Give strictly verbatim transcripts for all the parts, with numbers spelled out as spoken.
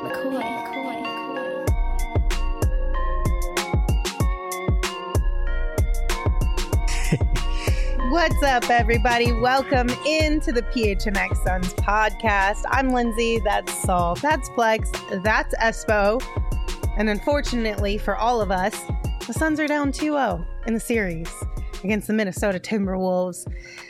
McCoy, McCoy, McCoy. What's up, everybody? Welcome into the P H N X Suns podcast. I'm Lindsay. That's Saul. That's Flex. That's Espo. And unfortunately for all of us, the Suns are down two oh in the series against the Minnesota Timberwolves.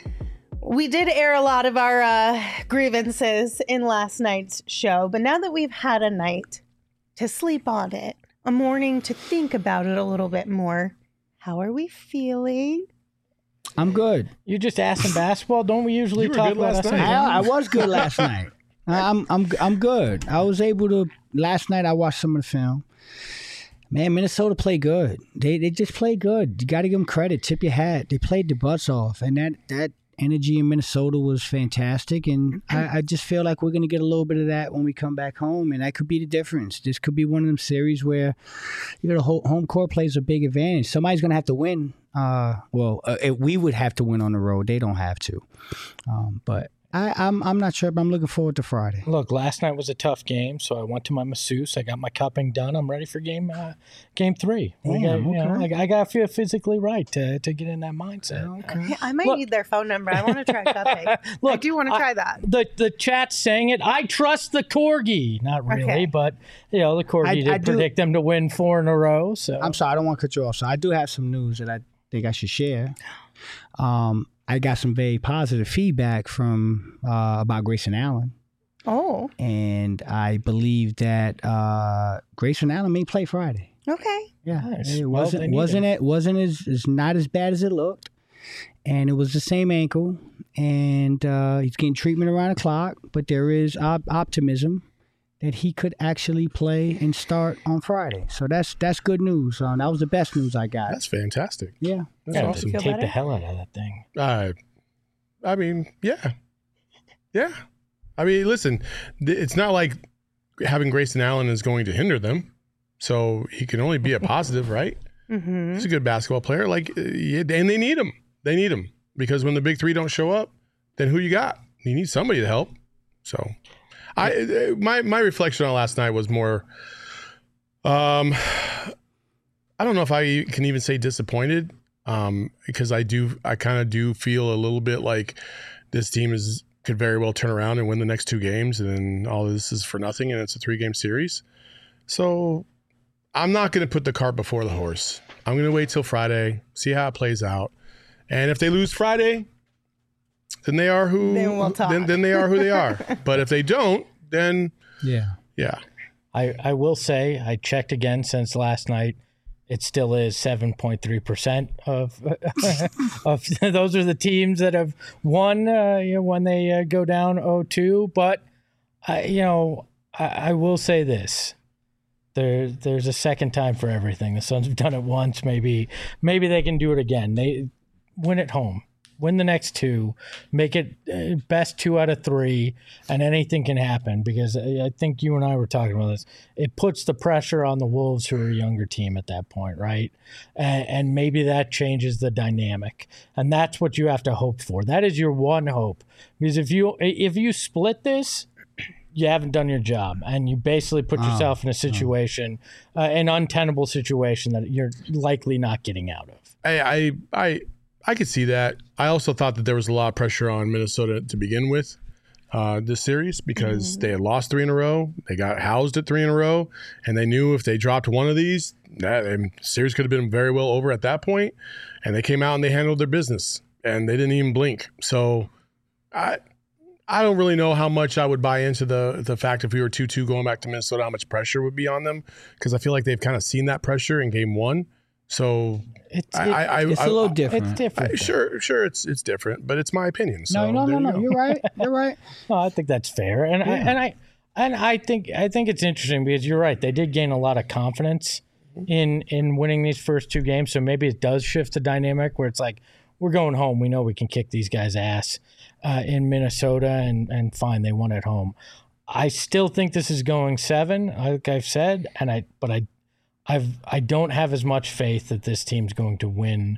We did air a lot of our uh, grievances in last night's show, but now that we've had a night to sleep on it, a morning to think about it a little bit more, how are we feeling? I'm good. You just asked in basketball. Don't we usually You were talk good about last us? night. I, I was good last night. I'm I'm I'm good. I was able to last night. I watched some of the film. Man, Minnesota played good. They they just played good. You got to give them credit. Tip your hat. They played the butts off, and that that energy in Minnesota was fantastic. And I, I just feel like we're gonna get a little bit of that when we come back home, and that could be the difference. This could be one of them series where you know the whole home court plays a big advantage. Somebody's gonna have to win. Uh, well, uh, it, we would have to win on the road. They don't have to. Um, but I, I'm I'm not sure, but I'm looking forward to Friday. Look, last night was a tough game, so I went to my masseuse. I got my cupping done. I'm ready for game uh, game three. We Yeah, got, you know, okay. I, I got to feel physically right to, to get in that mindset. Okay. Yeah, I might Look- need their phone number. I want to try cupping. I Look, do want to try that. The the chat's saying it. I trust the Corgi. Not really, Okay. but you know the Corgi I- did I do- predict them to win four in a row. So I'm sorry, I don't want to cut you off. So I do have some news that I think I should share. Um, I got some very positive feedback from uh, about Grayson Allen, Oh, and I believe that uh, Grayson Allen may play Friday. okay. Yeah, Nice. it Well, wasn't they need wasn't him. it wasn't as, as not as bad as it looked, and it was the same ankle, and uh, he's getting treatment around the clock. But there is op- optimism that he could actually play and start on Friday. So that's that's good news. Um, that was the best news I got. That's fantastic. Yeah. That's yeah, awesome. feel tape better? the hell out of that thing. Uh, I mean, yeah. Yeah. I mean, listen, th- it's not like having Grayson Allen is going to hinder them. So he can only be a positive, right? Mm-hmm. He's a good basketball player. Like, uh, yeah, and they need him. They need him. Because when the big three don't show up, then who you got? You need somebody to help. So I uh, my my reflection on last night was more um I don't know if I can even say disappointed. Um, because I do, I kind of do feel a little bit like this team is could very well turn around and win the next two games, and then all this is for nothing, and it's a three game series. So I'm not going to put the cart before the horse. I'm going to wait till Friday, see how it plays out, and if they lose Friday, then they are who. Then we'll talk. Then, then they are who they are. But if they don't, then Yeah. yeah, I, I will say I checked again since last night. It still is seven point three percent of of those are the teams that have won uh, you know, when they uh, go down oh two. But I, you know, I, I will say this: there there's a second time for everything. The Suns have done it once. Maybe maybe they can do it again. They win at home. Win the next two, make it uh, best two out of three, and anything can happen because I I think you and I were talking about this. It puts the pressure on the Wolves, who are a younger team at that point, right? And, and maybe that changes the dynamic, and that's what you have to hope for. That is your one hope, because if you if you split this, you haven't done your job, and you basically put yourself in a situation, uh, an untenable situation that you're likely not getting out of. I I I, I could see that. I also thought that there was a lot of pressure on Minnesota to begin with uh, this series because Mm-hmm. they had lost three in a row. They got housed at three in a row, and they knew if they dropped one of these, that and series could have been very well over at that point. And they came out and they handled their business, and they didn't even blink. So I I don't really know how much I would buy into the the fact if we were two two going back to Minnesota, how much pressure would be on them, because I feel like they've kind of seen that pressure in game one. So It's, I, it- I, I It's I- a little it's different. different. I, sure, sure, it's it's different, but it's my opinion. So No, no, there no, you no. go. You're right. You're right. No, I think that's fair, and I, and I and I think I think it's interesting because you're right. They did gain a lot of confidence in in winning these first two games, so maybe it does shift the dynamic where it's like we're going home. We know we can kick these guys' ass uh, in Minnesota, and and fine, they won at home. I still think this is going seven, like I've said, and I but I I've I don't have as much faith that this team's going to win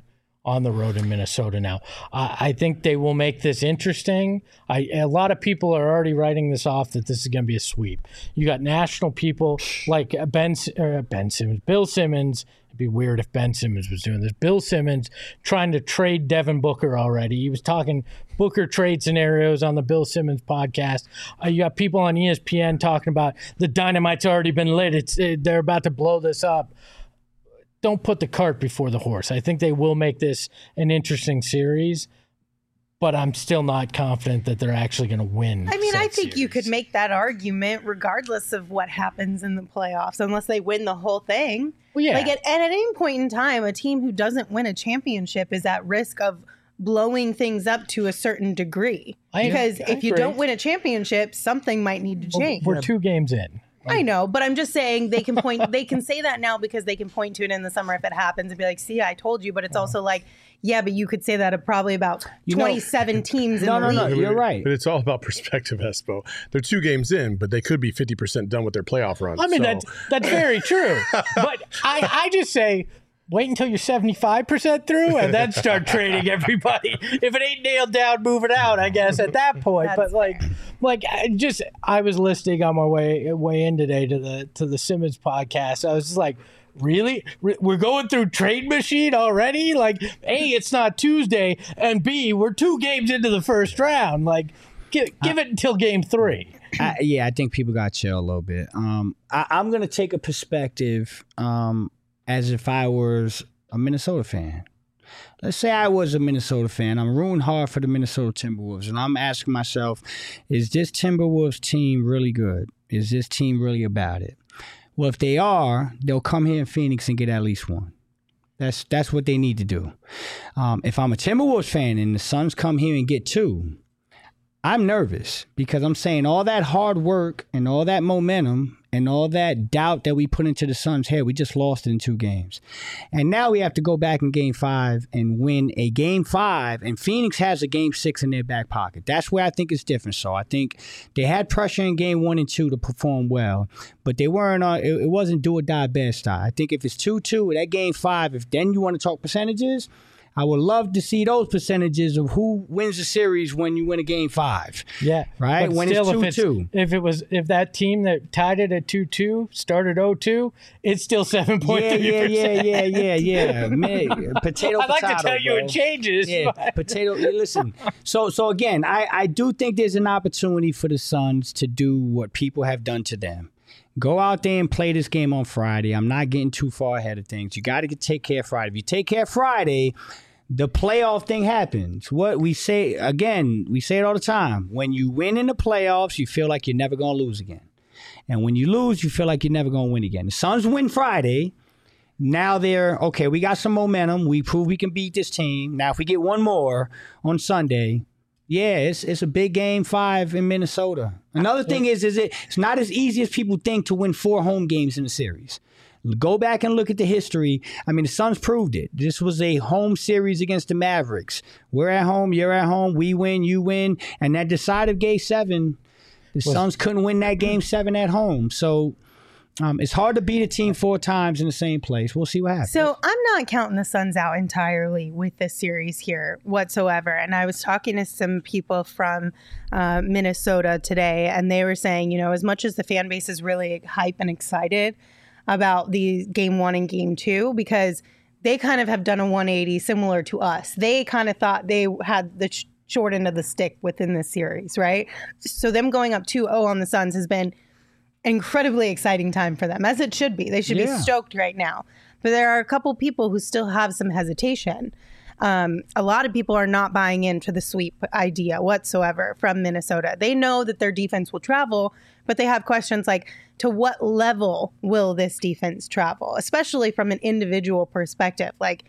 on the road in Minnesota now. Uh, I think they will make this interesting. I, a lot of people are already writing this off that this is going to be a sweep. You got national people like Ben, uh, Ben Simmons, Bill Simmons. It'd be weird if Ben Simmons was doing this. Bill Simmons trying to trade Devin Booker already. He was talking Booker trade scenarios on the Bill Simmons podcast. Uh, you got people on E S P N talking about the dynamite's already been lit. It's it, they're about to blow this up. Don't put the cart before the horse. I think they will make this an interesting series, but I'm still not confident that they're actually going to win. I mean, said I think series. you could make that argument regardless of what happens in the playoffs, unless they win the whole thing. Well, yeah. Like at, at any point in time, a team who doesn't win a championship is at risk of blowing things up to a certain degree. I- because I if you agree. don't win a championship, something might need to change. We're two games in. I know, but I'm just saying they can point. They can say that now because they can point to it in the summer if it happens and be like, "See, I told you." But it's also like, yeah, but you could say that of probably about You know- twenty-seven teams in No, the no, league. no. You're right. But it's all about perspective, Espo. They're two games in, but they could be fifty percent done with their playoff run. I mean, so. that's that's very true. But I, I just say, wait until you're seventy-five percent through and then start trading everybody. If it ain't nailed down, move it out, I guess, at that point. That's but like, like I just I was listening on my way way in today to the to the Simmons podcast. I was just like, really? Re- We're going through trade machine already? Like, A, it's not Tuesday, and B, we're two games into the first round. Like, give, give it until game three. I, yeah, I think people got chill a little bit. Um, I, I'm gonna take a perspective um, as if I was a Minnesota fan. Let's say I was a Minnesota fan. I'm rooting hard for the Minnesota Timberwolves, and I'm asking myself, is this Timberwolves team really good? Is this team really about it? Well, if they are, they'll come here in Phoenix and get at least one. That's that's what they need to do. Um, if I'm a Timberwolves fan and the Suns come here and get two, I'm nervous because I'm saying all that hard work and all that momentum and all that doubt that we put into the Suns' head, we just lost it in two games. And now we have to go back in game five and win a game five, and Phoenix has a game six in their back pocket. That's where I think it's different. So I think they had pressure in game one and two to perform well, but they weren't on, it, it wasn't do or die best style. I think if it's two two, that game five, if then you want to talk percentages, I would love to see those percentages of who wins the series when you win a game five. Yeah, Right? But When it's still, if two-two. If it was, if that team that tied it at two two started oh two, it's still seven point Yeah, three yeah, percent. yeah, yeah, yeah, yeah. Man, potato, I'd like potato, to tell you bro. it changes. Yeah, but- potato. Listen, so so again, I, I do think there's an opportunity for the Suns to do what people have done to them. Go out there and play this game on Friday. I'm not getting too far ahead of things. You got to take care of Friday. If you take care of Friday, the playoff thing happens. What we say, again, we say it all the time. When you win in the playoffs, you feel like you're never going to lose again. And when you lose, you feel like you're never going to win again. The Suns win Friday. Now they're, okay, we got some momentum. We prove we can beat this team. Now, if we get one more on Sunday, yeah, it's it's a big game five in Minnesota. Another thing is, is it, it's not as easy as people think to win four home games in a series. Go back and look at the history. I mean, the Suns proved it. This was a home series against the Mavericks. We're at home, you're at home, we win, you win. And that decided game seven, the Suns couldn't win that game seven at home. So um, it's hard to beat a team four times in the same place. We'll see what happens. So I'm not counting the Suns out entirely with this series here whatsoever. And I was talking to some people from uh, Minnesota today, and they were saying, you know, as much as the fan base is really hype and excited about the game one and game two, because they kind of have done a one eighty similar to us. They kind of thought they had the sh- short end of the stick within this series, right? So them going up two oh on the Suns has been incredibly exciting time for them, as it should be. They should Yeah. be stoked right now. But there are a couple people who still have some hesitation. Um, a lot of people are not buying into the sweep idea whatsoever from Minnesota. They know that their defense will travel, but they have questions like, to what level will this defense travel, especially from an individual perspective? Like,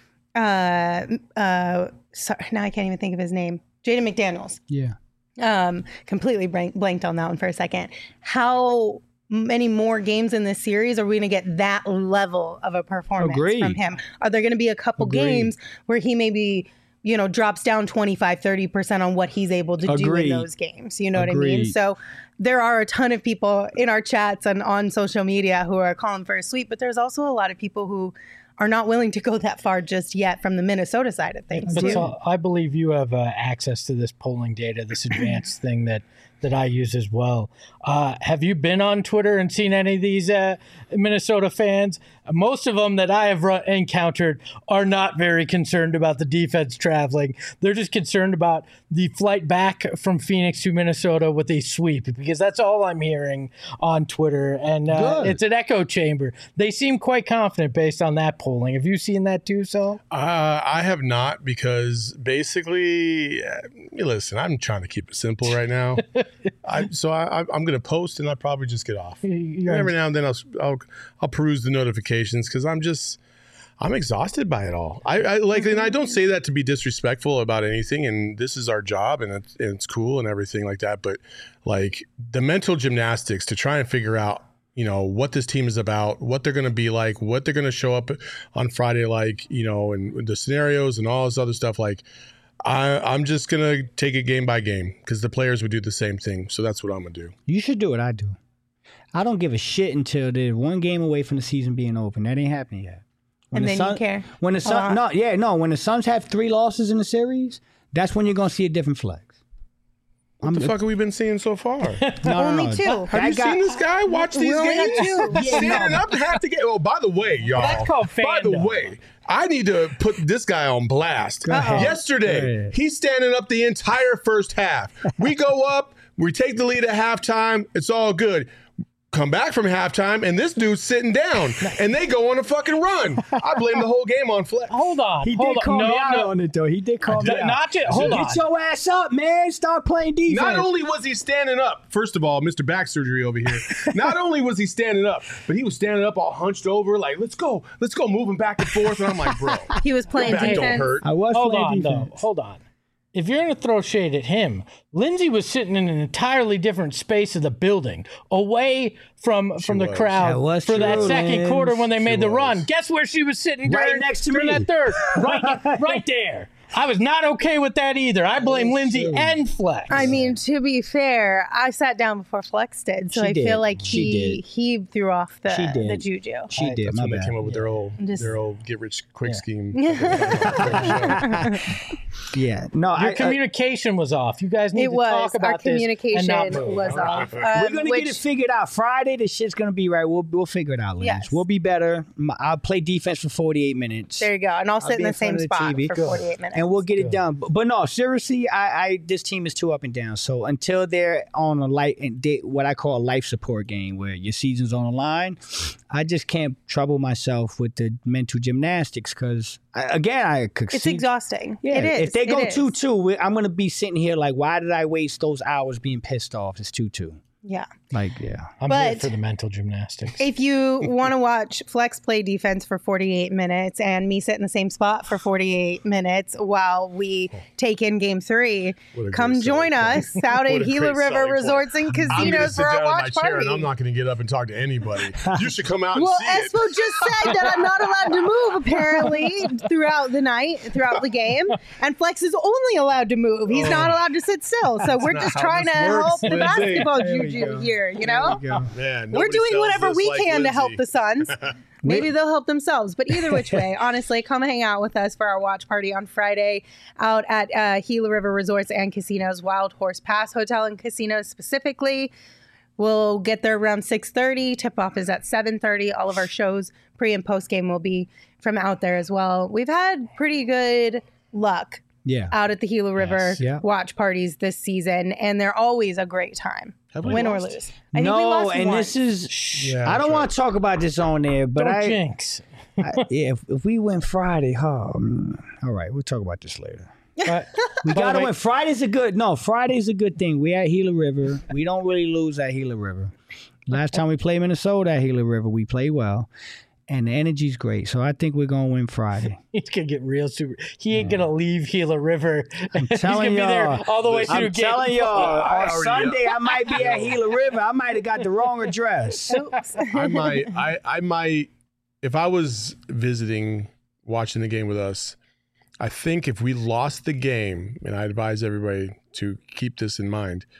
uh, uh, sorry, now I can't even think of his name. Jaden McDaniels. yeah. Um, completely blank, blanked on that one for a second. How many more games in this series are we going to get that level of a performance Agreed. from him? Are there going to be a couple Agreed. games where he maybe, you know, drops down twenty-five, thirty percent on what he's able to do Agreed. in those games? You know what I mean? Agreed. So there are a ton of people in our chats and on social media who are calling for a sweep, but there's also a lot of people who are not willing to go that far just yet from the Minnesota side of things. But too. so I believe you have uh, access to this polling data, this advanced thing that, that I use as well. Uh, have you been on Twitter and seen any of these uh, Minnesota fans? Most of them that I have run- encountered are not very concerned about the defense traveling. They're just concerned about the flight back from Phoenix to Minnesota with a sweep, because that's all I'm hearing on Twitter. And uh, it's an echo chamber. They seem quite confident based on that polling. Have you seen that too, Saul? Uh, I have not, because basically, uh, listen, I'm trying to keep it simple right now. I, so I, I'm going to post and I'll probably just get off. And every now and then I'll, I'll, I'll peruse the notifications, because I'm just, I'm exhausted by it all. I, I like, and I don't say that to be disrespectful about anything. And this is our job, and it's, and it's cool and everything like that. But like the mental gymnastics to try and figure out, you know, what this team is about, what they're going to be like, what they're going to show up on Friday like, you know, and the scenarios and all this other stuff. Like, I, I'm just going to take it game by game, because the players would do the same thing. So that's what I'm going to do. You should do what I do. I don't give a shit until they're one game away from the season being open. That ain't happening yet. When And the then you care When the a Sun, lot. no, yeah, no. When the Suns have three losses in the series, that's when you're going to see a different flex. What the fuck have we been seeing so far? No, no, Only no. two. That Have you guy- seen this guy watch these We only got games? two. Yeah, Standing no. up to have to get. Oh, by the way, y'all. That's called By the fandom. way, I need to put this guy on blast. ahead. Yesterday, Go ahead. he's standing up the entire first half. We go up, we take the lead at halftime. It's all good. Come back from halftime, and this dude's sitting down, and they go on a fucking run. I blame the whole game on Flex. Hold on. He hold did call on. me no, out no. on it, though. He did call me N- out. Not just, hold on. Get your ass up, man. Start playing defense. Not only was he standing up, first of all, Mister Back Surgery over here. Not only was he standing up, but he was standing up all hunched over, like, let's go, let's go, moving back and forth. And I'm like, bro, He was playing your back don't defense. hurt. I was Hold playing on, defense. though. Hold on. If you're going to throw shade at him, Lindsay was sitting in an entirely different space of the building, away from from the was. crowd That was for that true, second Linz. quarter when they She made the was. run. Guess where she was sitting Right during, next to during me. that third? Right, right there. I was not okay with that either. I blame That's Lindsay true. and Flex. I mean, to be fair, I sat down before Flex did, so She I did. feel like She he did. he threw off the She did. the juju. She did. That's My when they bad. came up with their old, Just- their old get rich quick Yeah. scheme. Yeah. No, Your I, I, communication was off. You guys need It to was talk about our this and communication not move. was off. we're Um, gonna which, get it figured out. Friday, the shit's gonna be right. We'll we'll figure it out, Lance. Yes. We'll be better. M- I'll play defense for forty-eight minutes. There you go, and I'll sit be in in the same front of the spot T V. for Good. forty-eight minutes. and we'll get it done. But, but no, seriously, I, I this team is too up and down. So until they're on a light and they, what I call a life support game, where your season's on the line, I just can't trouble myself with the mental gymnastics because again, I could It's see. exhausting. Yeah, it is. if they go It is. two two, I'm gonna be sitting here like, why did I waste those hours being pissed off? It's two two. Yeah. Like, yeah. I'm here But- for the mental gymnastics. If you want to watch Flex play defense for forty-eight minutes and me sit in the same spot for forty-eight minutes while we take in game three, What a come great join selling us out What at a Gila great River selling Resorts and I'm gonna Casinos sit for our down in my watch chair party. and I'm not going to get up and talk to anybody. You should come out and Well, see it. Espo just said that I'm not allowed to move apparently throughout the night, throughout the game, and Flex is only allowed to move. He's not allowed to sit still. So we're not just how trying to this works, help the Lindsay. basketball There we juju go. here, you know? There you go. Man, We're nobody doing sells whatever this we like can to help Lindsay. the Suns. Maybe they'll help themselves. But either which way, honestly, come hang out with us for our watch party on Friday out at uh, Gila River Resorts and Casinos, Wild Horse Pass Hotel and Casinos specifically. We'll get there around six thirty. Tip-off is at seven thirty. All of our shows, pre and post game, will be from out there as well. We've had pretty good luck Yeah. out at the Gila River Yes. Yeah. watch parties this season, and they're always a great time, Have we win or lost? lose. I think we No, lost and once. this is. Yeah, I don't that's want to talk about this on there, but Don't I, jinx. I yeah, if, if we win Friday, oh, mm, all right, we'll talk about this later. But, We by the gotta way, win. Friday's a good. No, Friday's a good thing. We at Gila River. We don't really lose at Gila River. Last time we played Minnesota at Gila River, we played well, and the energy's great. So I think we're gonna win Friday. He's gonna get real super. He ain't gonna leave Gila River. I'm He's gonna telling be there y'all. all the way through I'm game telling y'all, I on already- Sunday I might be at Gila River. I might have got the wrong address. Oops. I might, I, I might, if I was visiting, watching the game with us, I think if we lost the game, and I advise everybody to keep this in mind,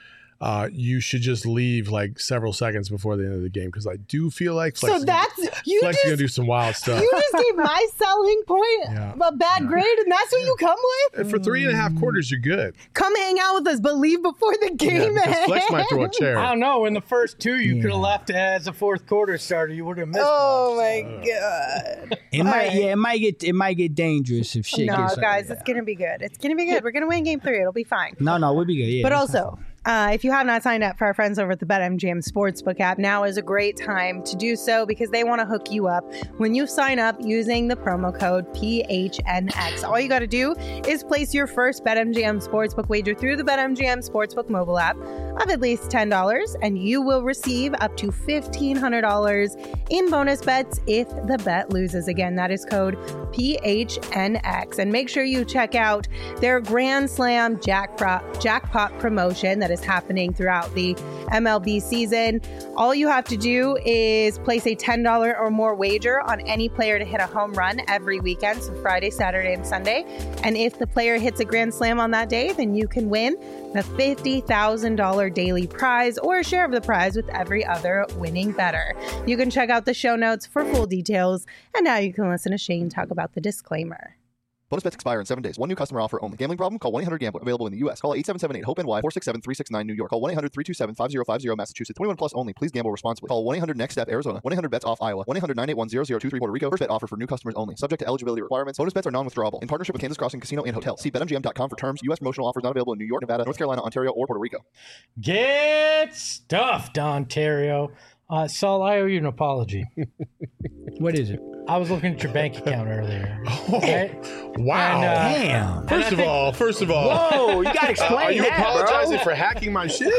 uh, you should just leave like several seconds before the end of the game because I do feel like Flex So is that's you Flex is just gonna do some wild stuff. you just gave my selling point Yeah. a bad grade, and that's what you come with. And for three and a half quarters, you're good. Come hang out with us, but leave before the Yeah, game because ends. Flex might throw a chair. I don't know. In the first two, you Yeah. could have left as a fourth quarter starter. You would have missed. Oh one. my god! It might, right. yeah, it might get, it might get dangerous if shit No, gets. guys, it's gonna be good. It's gonna be good. We're gonna win game three. It'll be fine. no, no, we'll be good. Yeah, But that's also, uh, if you have not signed up for our friends over at the BetMGM Sportsbook app, now is a great time to do so because they want to hook you up when you sign up using the promo code P H N X. All you got to do is place your first BetMGM Sportsbook wager through the BetMGM Sportsbook mobile app of at least ten dollars, and you will receive up to fifteen hundred dollars in bonus bets if the bet loses. Again, that is code P H N X. And make sure you check out their Grand Slam jackpot, jackpot promotion that is happening throughout the M L B season. All you have to do is place a ten dollars or more wager on any player to hit a home run every weekend, so Friday, Saturday, and Sunday. And if the player hits a grand slam on that day, then you can win a fifty thousand dollars daily prize or a share of the prize with every other winning bettor. You can check out the show notes for full details. And now you can listen to Shane talk about the disclaimer. Bonus bets expire in seven days. One new customer offer only. Gambling problem? Call one eight hundred gambler. Available in the U S. Call eight seven seven eight hope N Y four six seven three six nine New York. Call one eight hundred three two seven five zero five zero Massachusetts. twenty-one plus only. Please gamble responsibly. Call one eight hundred next step Arizona. one eight hundred bets off Iowa. one eight hundred nine eight one zero zero two three Puerto Rico. First bet offer for new customers only. Subject to eligibility requirements. Bonus bets are non-withdrawable. In partnership with Kansas Crossing Casino and Hotel. See bet M G M dot com for terms. U S promotional offers not available in New York, Nevada, North Carolina, Ontario, or Puerto Rico. Get stuffed, Ontario. Uh, Saul, I owe you an apology. What is it? I was looking at your bank account earlier. Oh, Okay? wow. And, uh, Damn. First of all, first of all, Whoa, you gotta explain are you that, apologizing bro. for hacking my shit?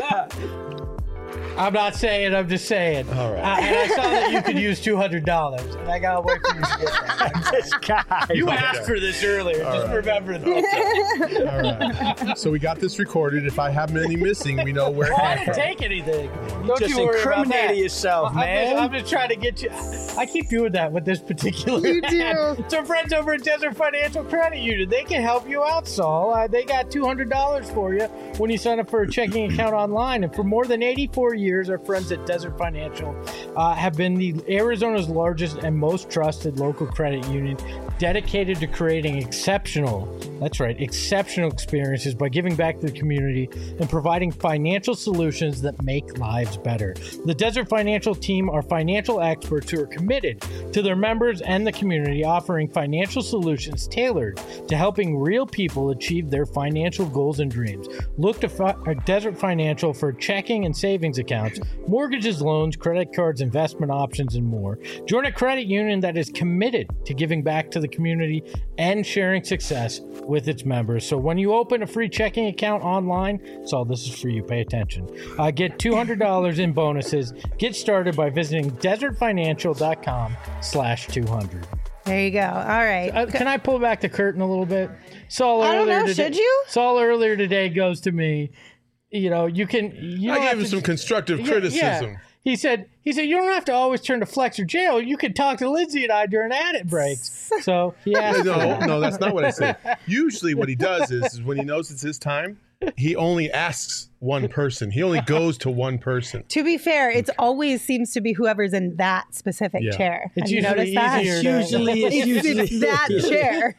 I'm not saying, I'm just saying. All right. Uh, and I saw that you could use two hundred dollars, and I got to wait for you to get that. This guy. You asked for this earlier. Just right. remember that. All right. So we got this recorded. If I have any missing, we know where it Oh, I came didn't from. take anything. Don't just you worry about incriminated that. yourself, I'm man. Just, I'm just trying to get you. I keep doing that with this particular. You do. ad. So friends over at Desert Financial Credit Union, they can help you out, Saul. Uh, they got two hundred dollars for you when you sign up for a checking account online. And for more than eighty-four years, our friends at Desert Financial uh, have been the Arizona's largest and most trusted local credit union, dedicated to creating exceptional, that's right, exceptional experiences by giving back to the community and providing financial solutions that make lives better. The Desert Financial team are financial experts who are committed to their members and the community, offering financial solutions tailored to helping real people achieve their financial goals and dreams. Look to fi- Desert Financial for checking and savings accounts, mortgages, loans, credit cards, investment options, and more. Join a credit union that is committed to giving back to the community and sharing success with its members. So when you open a free checking account online, so this is for you, pay attention. Uh, get two hundred dollars in bonuses. Get started by visiting desertfinancial.com slash 200. There you go. All right. Uh, can I pull back the curtain a little bit? Saul I don't earlier know. today, Should you? Saul earlier today goes to me, you know, you can... You I don't gave have him to- some constructive Yeah, criticism. yeah. He said, he said, you don't have to always turn to Flex or Jail. You can talk to Lindsay and I during ad breaks. So he asked. No, no, that's not what I said. Usually what he does is, is when he knows it's his time, he only asks one person. He only goes to one person. To be fair, it always seems to be whoever's in that specific Yeah. chair. It's Have you usually noticed that? easier It's usually, it's It's, usually it's that chair.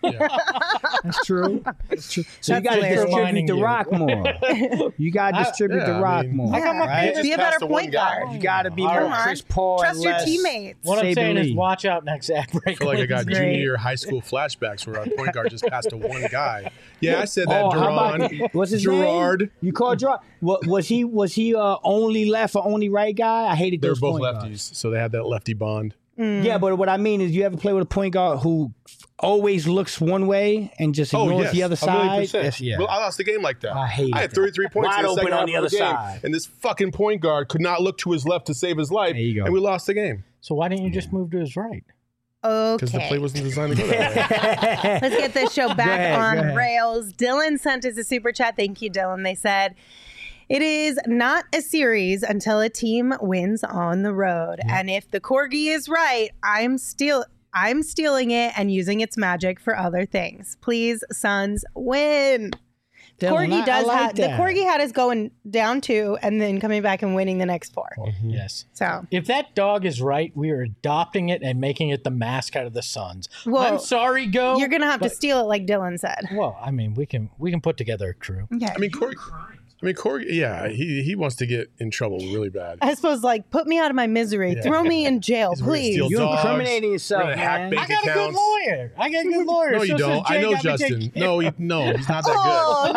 That's true. That's true. So That's you got to hilarious. distribute Reminding the you. rock more. You got to distribute yeah, the I rock mean- more. I got my right? penis Be a Just pass better to one point guy. guard. You got to be All more right. Chris Paul Trust and your less. teammates. What I'm Saber saying is Lee. watch out next ad break. I feel like I got Lindsay. junior high school flashbacks where our point guard just passed to one guy. Yeah, I said that, Oh, how about Duran. what's his Gerard. name? You called Gerard. What was he? Was he uh, only left or only right guy? I hated They're those both point lefties, guards. so they had that lefty bond. Yeah, but what I mean is, you ever play with a point guard who always looks one way and just Oh, ignores yes. the other a million side? percent. That's- yeah. Well, I lost the game like that. I hated I had that. thirty-three points Wide in the open second on half the of other the game, side. and this fucking point guard could not look to his left to save his life, There you go. and we lost the game So why didn't you just move to his right? because the play Okay. wasn't designed to go that way. Let's get this show back ahead, go on ahead. rails. Dylan sent us a super chat. Thank you, Dylan. They said, it is not a series until a team wins on the road. And if the corgi is right, I'm still I'm stealing it and using its magic for other things. Please, Suns, win. Dylan, Corgi I- I does like have the that. Corgi had us going down two and then coming back and winning the next four. Yes. So If that dog is right, we are adopting it and making it the mascot of the Suns. Well, I'm sorry, Go. you're gonna have to but- steal it, like Dylan said. Well, I mean, we can we can put together a crew. Okay. I mean, Corey. I mean, Corey. Yeah, he he wants to get in trouble really bad. I suppose, like, put me out of my misery. Yeah. Throw me in jail, He's gonna please. steal You're dogs. incriminating We're yourself, gonna hack man. bank I got a good accounts. lawyer. I got a good lawyer. No, you So since don't. Jay I know got me Justin. taken- No, he, no, he's not that Oh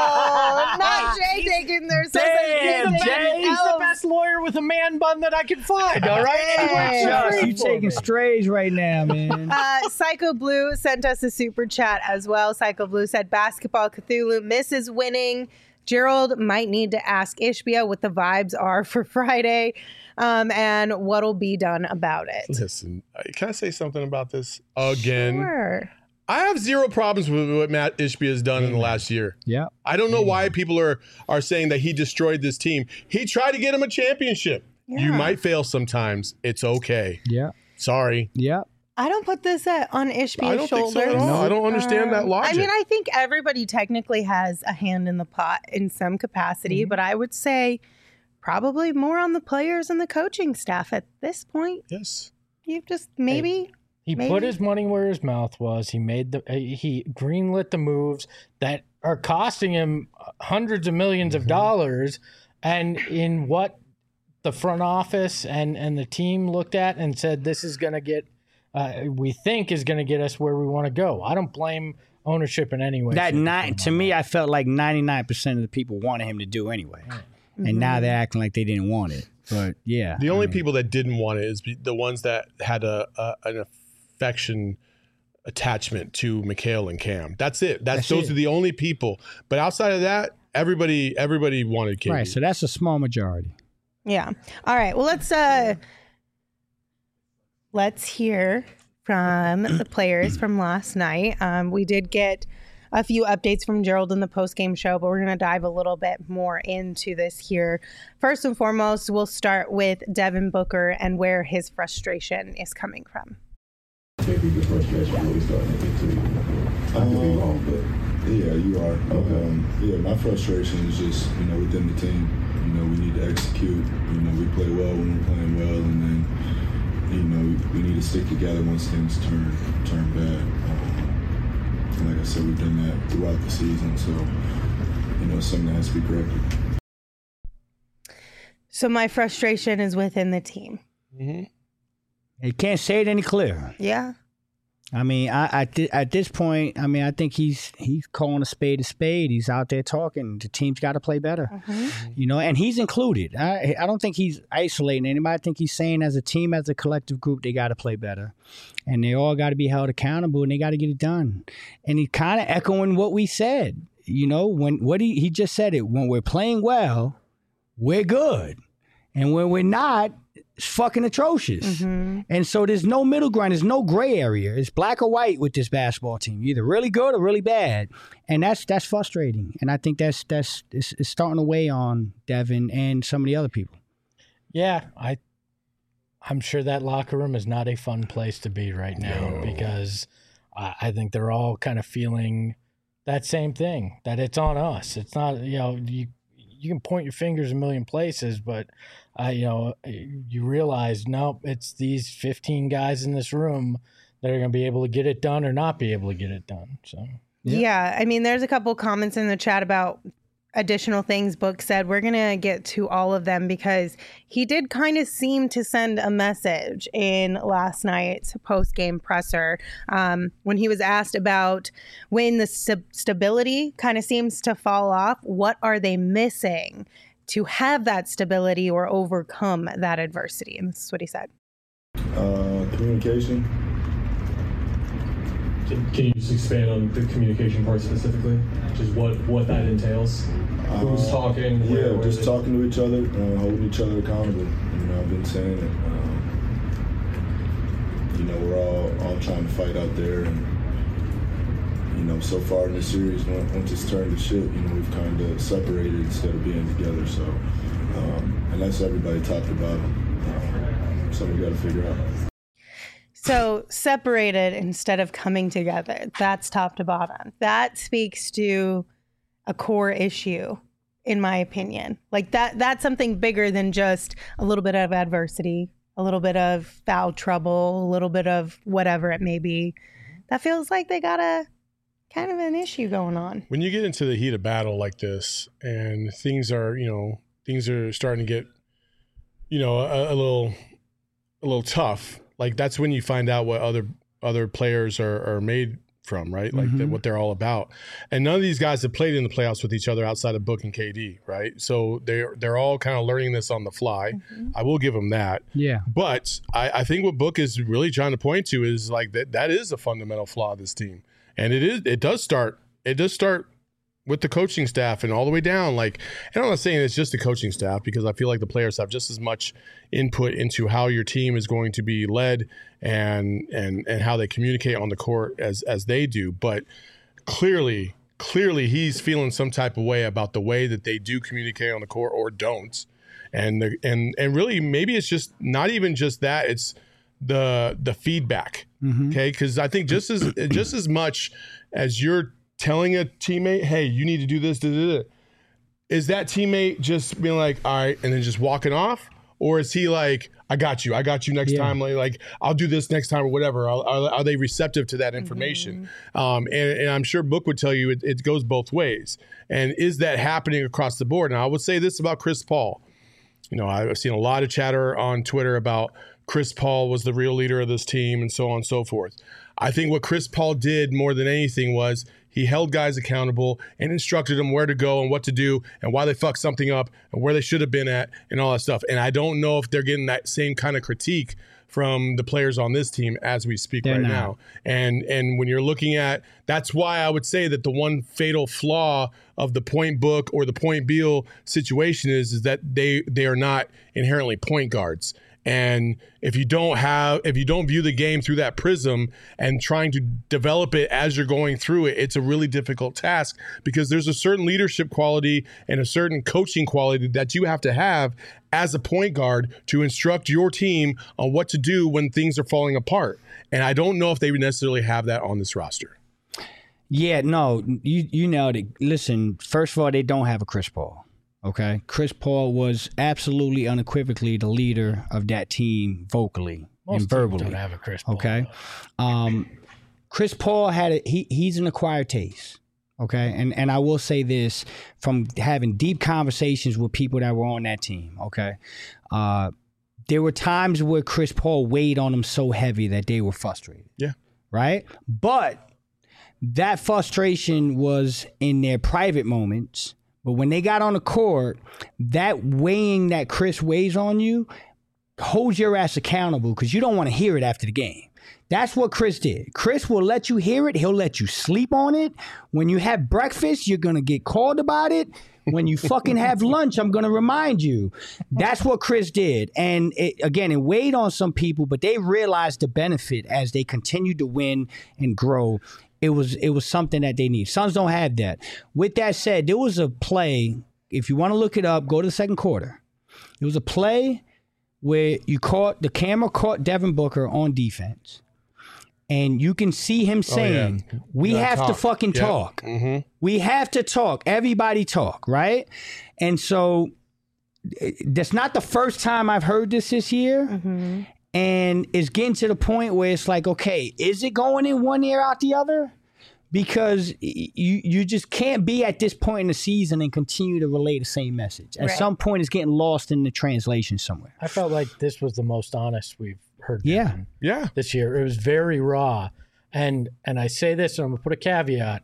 no! Not Jay taking their Damn, He's the, Jay. best, he's the best lawyer with a man bun that I can find. All right. Hey. Josh, Free you for taking me. strays right now, man. Uh, Psycho Blue sent us a super chat as well. Psycho Blue said, "Basketball Cthulhu misses winning. Gerald might need to ask Ishbia what the vibes are for Friday, um, and what'll be done about it." good. Listen, uh, can I say something about this again? Sure. I have zero problems with what Matt Ishbia has done in the last year. Yeah. I don't know why people are are saying that he destroyed this team. He tried to get him a championship. You Yeah. might fail sometimes. It's okay. Yeah. Sorry. Yeah. I don't put this at, on Ishbia's I don't think so shoulders. at all. I don't understand that Um, logic. I mean, I think everybody technically has a hand in the pot in some capacity, Mm-hmm. but I would say probably more on the players and the coaching staff at this point. Yes. You just maybe. He Maybe. put his money where his mouth was. He made the uh, he greenlit the moves that are costing him hundreds of millions of dollars, and in what the front office and and the team looked at and said, this is going to get uh, we think is going to get us where we want to go. I don't blame ownership in any way. That shape, or nine form to on me, that. I felt like ninety-nine percent of the people wanted him to do anyway, and now they're acting like they didn't want it. But yeah, The I only mean, people that didn't want it is be- the ones that had a, a an affection attachment to Mikhail and Cam. That's it. That's, That's those it. are the only people. But outside of that, everybody everybody wanted K D. right. So that's a small majority. Yeah. All right. Well, let's uh let's hear from the players from last night. Um, we did get a few updates from Gerald in the post-game show, but we're going to dive a little bit more into this here. First and foremost, we'll start with Devin Booker and where his frustration is coming from. Maybe the frustration really starting to get to you. I could be wrong, but Yeah, you are. Okay. Um, yeah, my frustration is just, you know, within the team. You know, we need to execute. You know, we play well when we're playing well, and then, you know, we, we need to stick together once things turn turn bad. Um, and like I said, we've done that throughout the season, so, you know, it's something that has to be corrected. So my frustration is within the team. Mm-hmm. You can't say it any clearer. Yeah. I mean, I, I th- at this point, I mean, I think he's he's calling a spade a spade. He's out there talking. The team's got to play better, you know, and he's included. I I don't think he's isolating anybody. I think he's saying as a team, as a collective group, they got to play better, and they all got to be held accountable, and they got to get it done. And he's kind of echoing what we said, you know, when what he he just said it. When we're playing well, we're good, and when we're not, it's fucking atrocious. And so there's no middle ground. There's no gray area. It's black or white with this basketball team. You're either really good or really bad. And that's that's frustrating. And I think that's that's it's, it's starting to weigh on Devin and some of the other people. Yeah, I, I'm sure that locker room is not a fun place to be right now No. because I, I think they're all kind of feeling that same thing, that it's on us. It's not, you know, you you can point your fingers a million places, but, uh, you know, you realize, nope, it's these fifteen guys in this room that are going to be able to get it done or not be able to get it done. So, Yeah. Yeah. I mean, there's a couple comments in the chat about additional things Book said. We're going to get to all of them because he did kind of seem to send a message in last night's post-game presser um, when he was asked about when the st- stability kind of seems to fall off. What are they missing to have that stability or overcome that adversity? And this is what he said. Uh, communication. Can, can you just expand on the communication part specifically? Just what, what that entails? Who's Uh, talking? Yeah, where- where just they- talking to each other, uh, holding each other accountable. You know, I've been saying it. Um, you know, we're all all trying to fight out there, and you know, so far in this series, once once it's turned to shit, you know, we've kind of separated instead of being together. So, um, and that's everybody talked about. Um, something we got to figure out. So separated instead of coming together. That's top to bottom. That speaks to a core issue, in my opinion. Like that that's something bigger than just a little bit of adversity, a little bit of foul trouble, a little bit of whatever it may be. That feels like they got a kind of an issue going on. When you get into the heat of battle like this and things are, you know, things are starting to get, you know, a, a little a little tough, like that's when you find out what other other players are, are made from, right? Like Mm-hmm. the, what they're all about. And none of these guys have played in the playoffs with each other outside of Book and K D, right? So they're they're all kind of learning this on the fly. Mm-hmm. I will give them that. Yeah. But I, I think what Book is really trying to point to is like that that is a fundamental flaw of this team. And it is it does start it does start with the coaching staff and all the way down. Like, and I'm not saying it's just the coaching staff, because I feel like the players have just as much input into how your team is going to be led and and and how they communicate on the court as as they do. But clearly, clearly he's feeling some type of way about the way that they do communicate on the court or don't. And the, and and really maybe it's just not even just that, it's the the feedback. Mm-hmm. Okay, because I think just as just as much as you're telling a teammate, hey, you need to do this, da, da, da, is that teammate just being like, all right, and then just walking off? Or is he like, I got you, I got you next Yeah. time, like, like I'll do this next time or whatever? Are, are, are they receptive to that information? Mm-hmm. Um, and, and I'm sure Book would tell you it, it goes both ways. And is that happening across the board? Now, I would say this about Chris Paul. You know, I've seen a lot of chatter on Twitter about Chris Paul was the real leader of this team and so on and so forth. I think what Chris Paul did more than anything was he held guys accountable and instructed them where to go and what to do and why they fucked something up and where they should have been at and all that stuff. And I don't know if they're getting that same kind of critique from the players on this team as we speak They're right not. now. And and when you're looking at, that's why I would say that the one fatal flaw of the Point Book or the Point Beal situation is, is that they they are not inherently point guards. And if you don't have, if you don't view the game through that prism and trying to develop it as you're going through it, it's a really difficult task, because there's a certain leadership quality and a certain coaching quality that you have to have as a point guard to instruct your team on what to do when things are falling apart. And I don't know if they necessarily have that on this roster. Yeah, no, you you nailed it. Listen, first of all, they don't have a Chris Paul. Okay, Chris Paul was absolutely unequivocally the leader of that team vocally Most and teams verbally. don't have a Chris Paul. Okay, um, Chris Paul had a, he he's an acquired taste. Okay, and and I will say this from having deep conversations with people that were on that team. Okay, uh, there were times where Chris Paul weighed on them so heavy that they were frustrated. Yeah. Right, but that frustration was in their private moments. But when they got on the court, that weighing that Chris weighs on you holds your ass accountable, because you don't want to hear it after the game. That's what Chris did. Chris will let you hear it. He'll let you sleep on it. When you have breakfast, you're going to get called about it. When you fucking have lunch, I'm going to remind you. That's what Chris did. And it, again, it weighed on some people, but they realized the benefit as they continued to win and grow. It was it was something that they need. Suns don't have that. With that said, there was a play, if you want to look it up, go to the second quarter. It was a play where you caught, the camera caught Devin Booker on defense. And you can see him saying, yeah. we Gotta have to talk. fucking Yep. talk. Mm-hmm. We have to talk. Everybody talk, right? And so it- that's not the first time I've heard this this year. Mm-hmm. And it's getting to the point where it's like, okay, is it going in one ear out the other? Because y- you you just can't be at this point in the season and continue to relay the same message. At Right. some point, it's getting lost in the translation somewhere. I felt like this was the most honest we've heard Yeah. Devin Yeah. this year. It was very raw. And and I say this, and I'm going to put a caveat.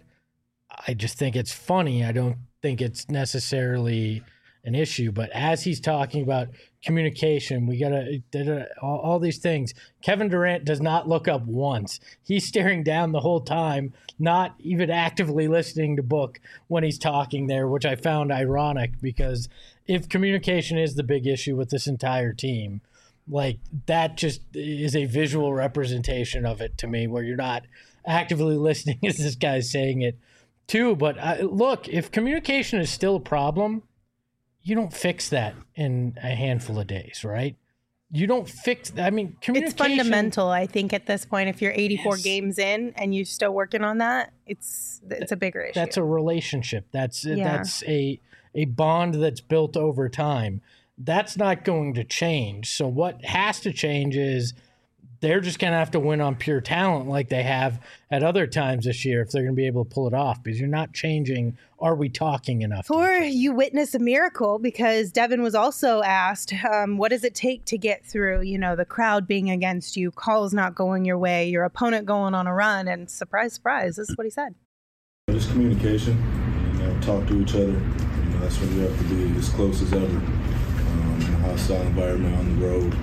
I just think it's funny. I don't think it's necessarily an issue. But as he's talking about communication, we got to all, all these things. Kevin Durant does not look up once. He's staring down the whole time, not even actively listening to Book when he's talking there, which I found ironic, because if communication is the big issue with this entire team, like that just is a visual representation of it to me, where you're not actively listening as this guy's saying it too. But I, look, if communication is still a problem, you don't fix that in a handful of days, right? you don't fix. I mean, It's communication. fundamental, I think, at this point. If you're eighty-four Yes. games in and you're still working on that, it's it's a bigger issue. That's a relationship. That's Yeah. that's a a bond that's built over time. That's not going to change. So what has to change is they're just going to have to win on pure talent like they have at other times this year if they're going to be able to pull it off, because you're not changing. Are we talking enough? to Or each other? you witness a miracle, because Devin was also asked, um, what does it take to get through, you know, the crowd being against you, calls not going your way, your opponent going on a run, and surprise, surprise, this is what he said. Just communication, you know, talk to each other. You know, that's when you have to be as close as ever. Um, in a hostile environment on the road.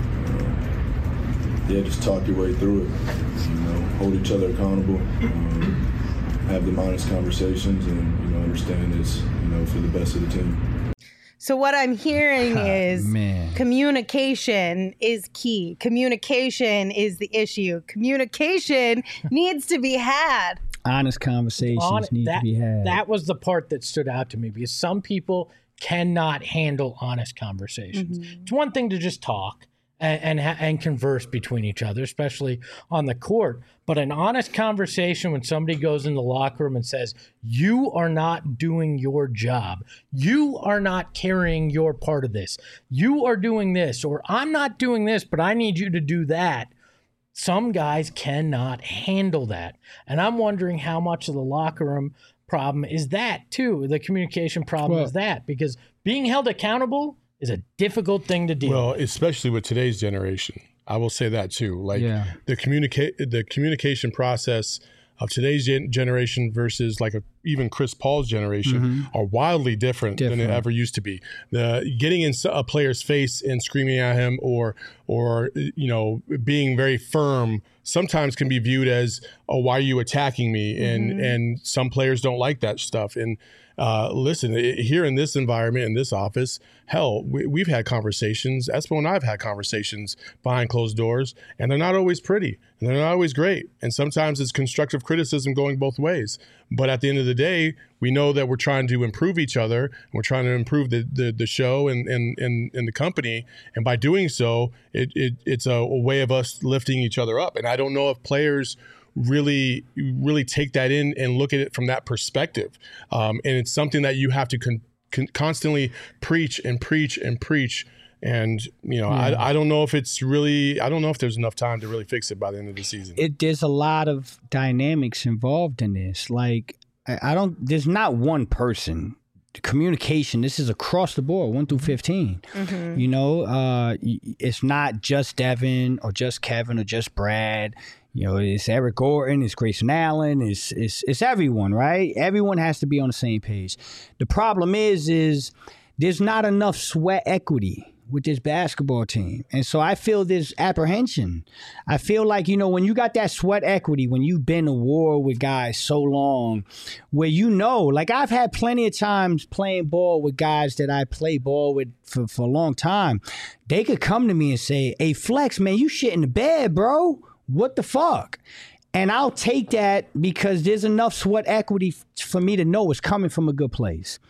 Uh, yeah, just talk your way through it. You know, hold each other accountable. Um, have them honest conversations, and you know, understand it's you know for the best of the team. So what I'm hearing Ah, is man. communication is key. Communication is the issue. Communication needs to be had. Honest conversations On- need that, to be had. that was the part that stood out to me, because some people cannot handle honest conversations. It's one thing to just talk and and, ha- and converse between each other, especially on the court. But an honest conversation, when somebody goes in the locker room and says, you are not doing your job, you are not carrying your part of this, you are doing this, or I'm not doing this, but I need you to do that. Some guys cannot handle that. And I'm wondering how much of the locker room problem is that too. The communication problem Well- is that, because being held accountable is a difficult thing to deal Well, with. especially with today's generation, I will say that too. Like Yeah. the communicate, the communication process of today's gen- generation versus like a, even Chris Paul's generation are wildly different, than Different. it ever used to be. The getting in a player's face and screaming at him, or or you know being very firm, sometimes can be viewed as, oh, why are you attacking me? And and some players don't like that stuff. And uh, listen, i- here in this environment, in this office, hell, we, we've had conversations. Espo and I have had conversations behind closed doors, and they're not always pretty, and they're not always great. And sometimes it's constructive criticism going both ways. But at the end of the day, we know that we're trying to improve each other. And we're trying to improve the the, the show and, and, and, and the company. And by doing so, it, it it's a, a way of us lifting each other up. And I don't know if players really really take that in and look at it from that perspective. Um, and it's something that you have to con- con- constantly preach and preach and preach. And, you know, I, I don't know if it's really, I don't know if there's enough time to really fix it by the end of the season. it there's a lot of dynamics involved in this. Like I, I don't there's not one person. Communication, this is across the board, one through fifteen. You know, uh y- it's not just Devin or just Kevin or just Brad. You know, it's Eric Gordon, it's Grayson Allen, it's it's it's everyone, right? Everyone has to be on the same page. The problem is is there's not enough sweat equity with this basketball team. And so I feel this apprehension. I feel like, you know, when you got that sweat equity, when you've been to war with guys so long, where you know, like I've had plenty of times playing ball with guys that I play ball with for, for a long time. They could come to me and say, hey, Flex, man, you shit in the bed, bro. What the fuck? And I'll take that because there's enough sweat equity f- for me to know it's coming from a good place.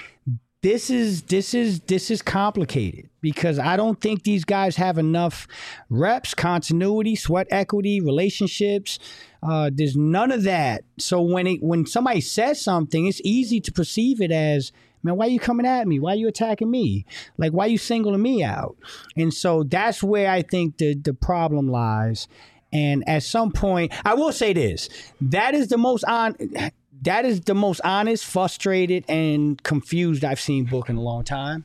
This is this is this is complicated because I don't think these guys have enough reps, continuity, sweat equity, relationships. Uh, there's none of that. So when it when somebody says something, it's easy to perceive it as, man, why are you coming at me? Why are you attacking me? Like, why are you singling me out? And so that's where I think the the problem lies. And at some point, I will say this: that is the most on. That is the most honest, frustrated, and confused I've seen Book in a long time.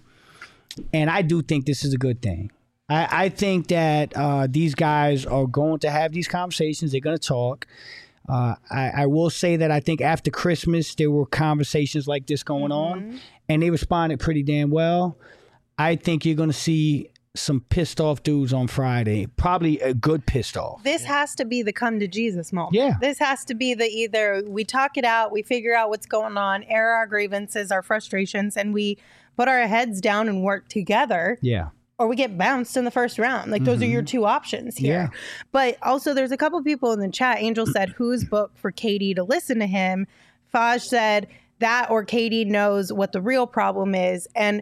And I do think this is a good thing. I, I think that uh, these guys are going to have these conversations. They're going to talk. Uh, I, I will say that I think after Christmas, there were conversations like this going on, and they responded pretty damn well. I think you're going to see some pissed off dudes on Friday, probably a good pissed off. This has to be the come to Jesus moment. Yeah. This has to be the either we talk it out, we figure out what's going on, air our grievances, our frustrations, and we put our heads down and work together, Yeah. or we get bounced in the first round. Like those are your two options here. Yeah. But also there's a couple people in the chat. Angel said, who's booked for Katie to listen to him? Faj said that or Katie knows what the real problem is. And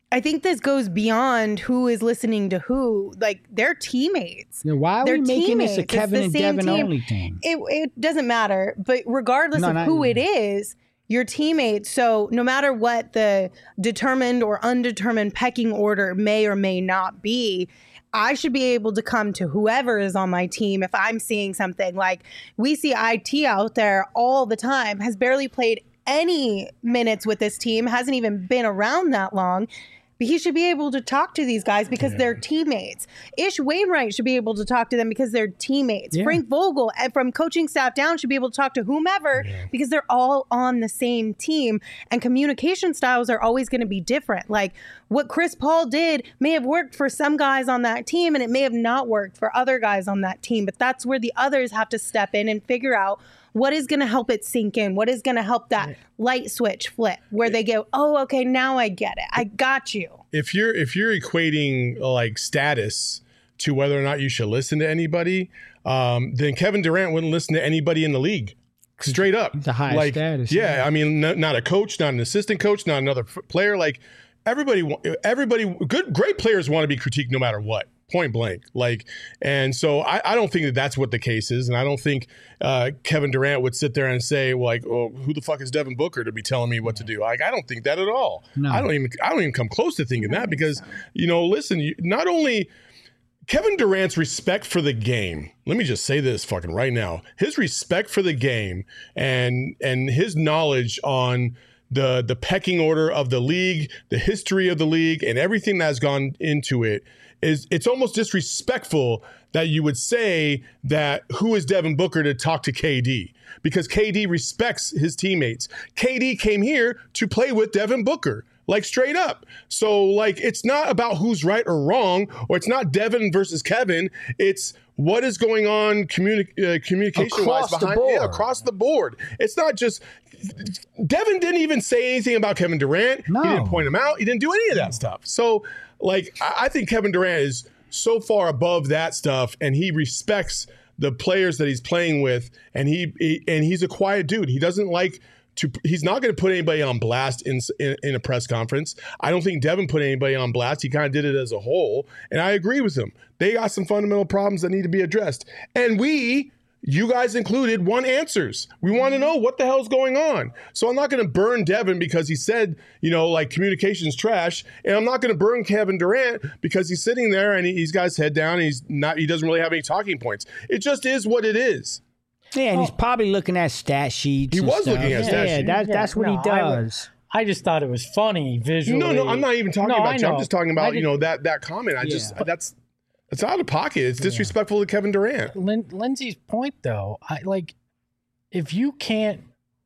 I think this goes beyond who is listening to who. Like, they're teammates. Yeah, why are They're we making this a teammates. It's Kevin the and same Devin team. only thing? It, it doesn't matter. But regardless No, of not- who it is, your teammates. So no matter what the determined or undetermined pecking order may or may not be, I should be able to come to whoever is on my team if I'm seeing something. Like, we see I T out there all the time, has barely played any minutes with this team, hasn't even been around that long. But he should be able to talk to these guys because yeah. they're teammates. Ish Wainwright should be able to talk to them because they're teammates. Yeah. Frank Vogel, and from coaching staff down, should be able to talk to whomever yeah. because they're all on the same team. And communication styles are always going to be different. Like, what Chris Paul did may have worked for some guys on that team, and it may have not worked for other guys on that team. But that's where the others have to step in and figure out what is going to help it sink in? What is going to help that light switch flip where they go, oh, okay, now I get it. I got you. If you're if you're equating like status to whether or not you should listen to anybody, um, then Kevin Durant wouldn't listen to anybody in the league. Straight up. The highest like, status. Yeah, I mean, no, not a coach, not an assistant coach, not another f- player. Like everybody, everybody, good, great players want to be critiqued no matter what. Point blank. Like, and so I, I don't think that that's what the case is. And I don't think uh, Kevin Durant would sit there and say, well, like, oh, who the fuck is Devin Booker to be telling me what to do? Like, I don't think that at all. No. I don't even, I don't even come close to thinking that because, you know, listen, you, not only Kevin Durant's respect for the game. Let me just say this fucking right now. His respect for the game and, and his knowledge on the, the pecking order of the league, the history of the league, and everything that's gone into it, is it's almost disrespectful that you would say that who is Devin Booker to talk to K D, because K D respects his teammates. K D came here to play with Devin Booker, like straight up. So like, it's not about who's right or wrong, or it's not Devin versus Kevin. It's what is going on communi- uh, communication across wise the behind board. Yeah, across the board. It's not just Devin didn't even say anything about Kevin Durant. No. He didn't point him out. He didn't do any of that stuff. So like, I think Kevin Durant is so far above that stuff, and he respects the players that he's playing with, and he, he and he's a quiet dude. He doesn't like to. He's not going to put anybody on blast in, in in a press conference. I don't think Devin put anybody on blast. He kind of did it as a whole, and I agree with him. They got some fundamental problems that need to be addressed, and we. You guys included want answers. We want to know what the hell's going on. So I'm not going to burn Devin because he said, you know, like communication's trash. And I'm not going to burn Kevin Durant because he's sitting there and he's got his head down and he's not, he doesn't really have any talking points. It just is what it is. Yeah, and he's probably looking at stat sheets. He and was stuff. looking at yeah, stat yeah, sheets. That, that's what No, he I would- does. I just thought it was funny visually. No, no, I'm not even talking No, about I you. I'm know. just talking I about, you didn't- know, that that comment. I Yeah. just, that's, it's out of pocket. It's disrespectful to Kevin Durant. Lin- Lindsay's point, though, I like if you can't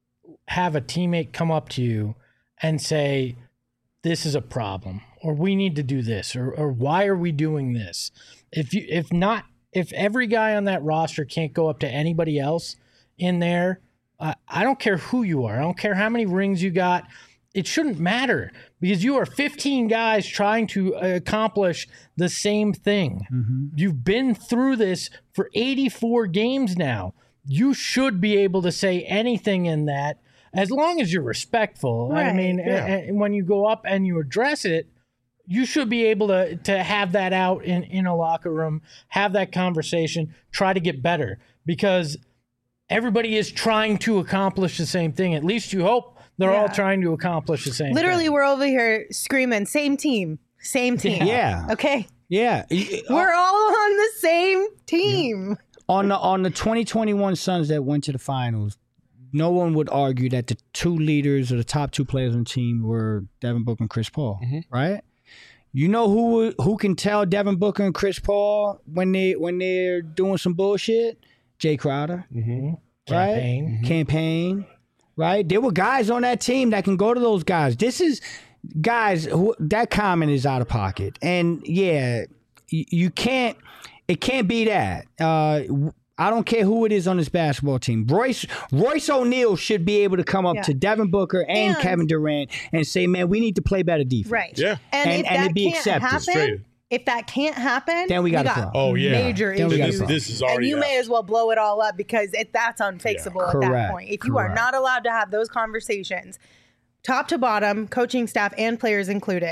have a teammate come up to you and say, "This is a problem," or "We need to do this," or "or why are we doing this?" If you, if not, if every guy on that roster can't go up to anybody else in there, uh, I don't care who you are. I don't care how many rings you got. It shouldn't matter because you are fifteen guys trying to accomplish the same thing. Mm-hmm. You've been through this for eighty-four games now. You should be able to say anything in that as long as you're respectful. I Right. mean, Yeah. a- a- when you go up and you address it, you should be able to to have that out in, in a locker room, have that conversation, try to get better because everybody is trying to accomplish the same thing. At least you hope they're all Yeah. trying to accomplish the same Literally, thing. we're over here screaming, same team, same team. Yeah. Okay. Yeah. We're all on the same team. on the on the twenty twenty-one Suns that went to the finals, no one would argue that the two leaders or the top two players on the team were Devin Booker and Chris Paul, Mhm. right? You know who who can tell Devin Booker and Chris Paul when they when they're doing some bullshit? Jay Crowder, Mm-hmm. right? Campaign. Campaign, right? There were guys on that team that can go to those guys. This is guys who that comment is out of pocket, and yeah, you, you can't. It can't be that. Uh, I don't care who it is on this basketball team. Royce Royce O'Neal should be able to come up Yeah. to Devin Booker and, And- Kevin Durant and say, "Man, we need to play better defense." Right. Yeah. And, And- if and that it be can't accepted. happen, Straight. if that can't happen, Then we got a got problem. Oh, yeah. major Then we got a issues. problem. This is And already you out. may as well blow it all up because it, that's unfixable at Correct. that point. If you are Correct. not allowed to have those conversations, top to bottom, coaching staff and players included,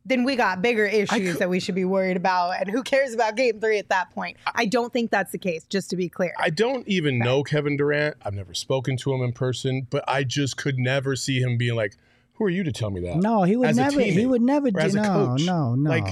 then we got bigger issues could- that we should be worried about. And who cares about game three at that point? I don't think that's the case, just to be clear. I don't even know Kevin Durant. I've never spoken to him in person, but I just could never see him being like, who are you to tell me that? No, he would As a never. He teammate would never or do. as a No, coach. no, no. Like,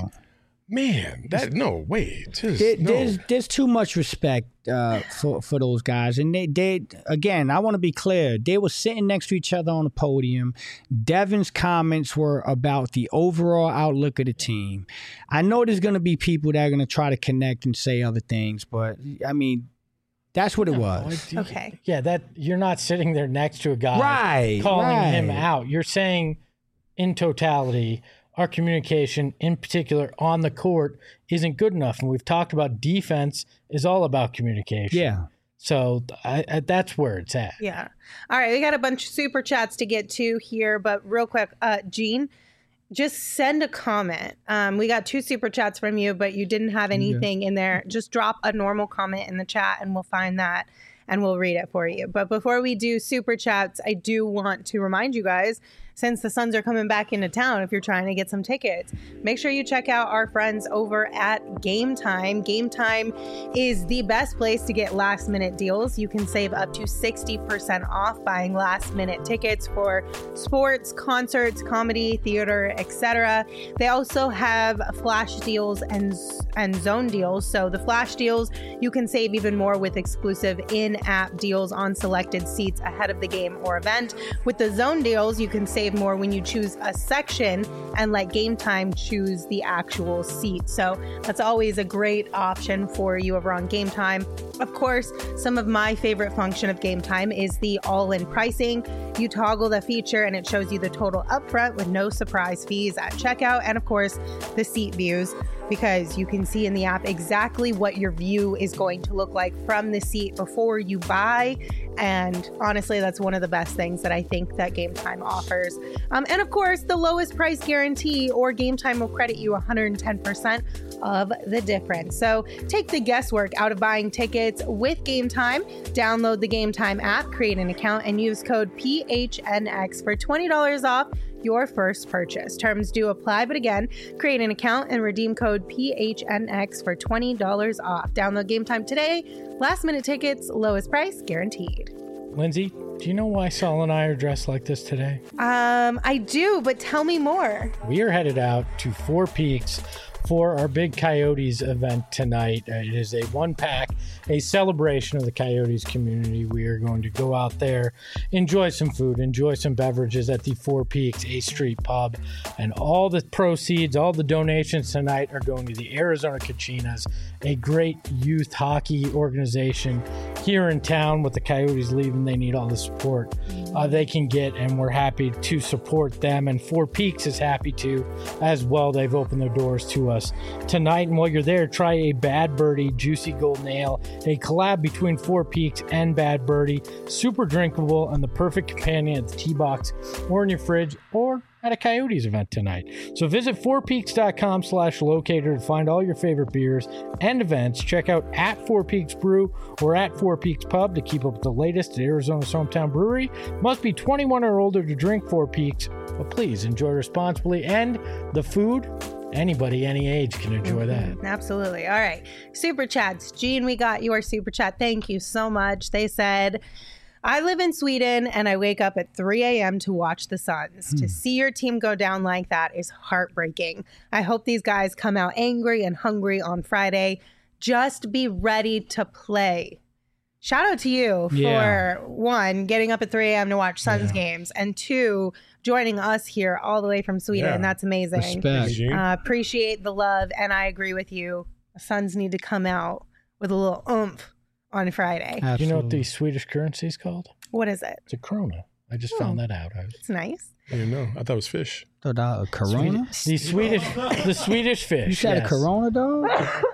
man, that no wait. Just, There, no. There's there's too much respect uh, for for those guys, and they they again. I want to be clear. They were sitting next to each other on the podium. Devin's comments were about the overall outlook of the team. I know there's going to be people that are going to try to connect and say other things, but I mean, that's what it was. Okay. Yeah, that you're not sitting there next to a guy Right, calling him right. out. You're saying in totality, our communication, in particular on the court, isn't good enough. And we've talked about defense is all about communication. Yeah. So I, I, that's where it's at. Yeah. All right. We got a bunch of super chats to get to here, but real quick, uh, Gene, just send a comment. Um, we got two super chats from you, but you didn't have anything in there. Just drop a normal comment in the chat and we'll find that and we'll read it for you. But before we do super chats, I do want to remind you guys, since the Suns are coming back into town, if you're trying to get some tickets, make sure you check out our friends over at Game Time. Game Time is the best place to get last minute deals. You can save up to sixty percent off buying last minute tickets for sports, concerts, comedy, theater, et cetera. They also have flash deals and, and zone deals. So the flash deals, you can save even more with exclusive in-app deals on selected seats ahead of the game or event. With the zone deals, you can save more when you choose a section and let Game Time choose the actual seat. So that's always a great option for you over on Game Time. Of course, some of my favorite function of Game Time is the all-in pricing. You toggle the feature and it shows you the total upfront with no surprise fees at checkout, and of course the seat views, because you can see in the app exactly what your view is going to look like from the seat before you buy. And honestly, that's one of the best things that I think that Game Time offers. Um, and of course, the lowest price guarantee, or Game Time will credit you one hundred ten percent of the difference. So take the guesswork out of buying tickets with Game Time. Download the Game Time app, create an account, and use code P H N X for twenty dollars off your first purchase. Terms do apply, but again, create an account and redeem code P H N X for twenty dollars off. Download Game Time today. Last minute tickets, lowest price guaranteed. Lindsay, do you know why Saul and I are dressed like this today? Um, I do, but tell me more. We are headed out to Four Peaks for our big Coyotes event tonight. Uh, it is a one pack, a celebration of the Coyotes community. We are going to go out there, enjoy some food, enjoy some beverages at the Four Peaks A Street Pub, and all the proceeds, all the donations tonight are going to the Arizona Kachinas, a great youth hockey organization here in town. With the Coyotes leaving, they need all the support uh, they can get, and we're happy to support them. And Four Peaks is happy to as well. They've opened their doors to us tonight. And while you're there, try a Bad Birdie Juicy Golden Ale, a collab between Four Peaks and Bad Birdie. Super drinkable and the perfect companion at the tee box or in your fridge or at a Coyotes event tonight. So visit four peaks dot com slash locator to find all your favorite beers and events. Check out at Four Peaks Brew or at Four Peaks Pub to keep up with the latest at Arizona's hometown brewery. Must be twenty-one or older to drink Four Peaks, but please enjoy responsibly. And the food, anybody, any age can enjoy that. Absolutely. All right. Super chats. Gene, we got your super chat. Thank you so much. They said, I live in Sweden and I wake up at three a.m. to watch the Suns. Hmm. To see your team go down like that is heartbreaking. I hope these guys come out angry and hungry on Friday. Just be ready to play. Shout out to you Yeah. for, one, getting up at three a.m. to watch Suns Yeah. games, and two, joining us here all the way from Sweden. Yeah. That's amazing. Respect. Gene. Uh, appreciate the love, and I agree with you. The Suns need to come out with a little oomph on Friday. Absolutely. Do you know what the Swedish currency is called? What is it? It's a krona. I just found that out. I was, It's nice. I didn't know. I thought it was fish. Thought that a Corona? the Swedish, the Swedish fish. You said yes. a Corona, dog?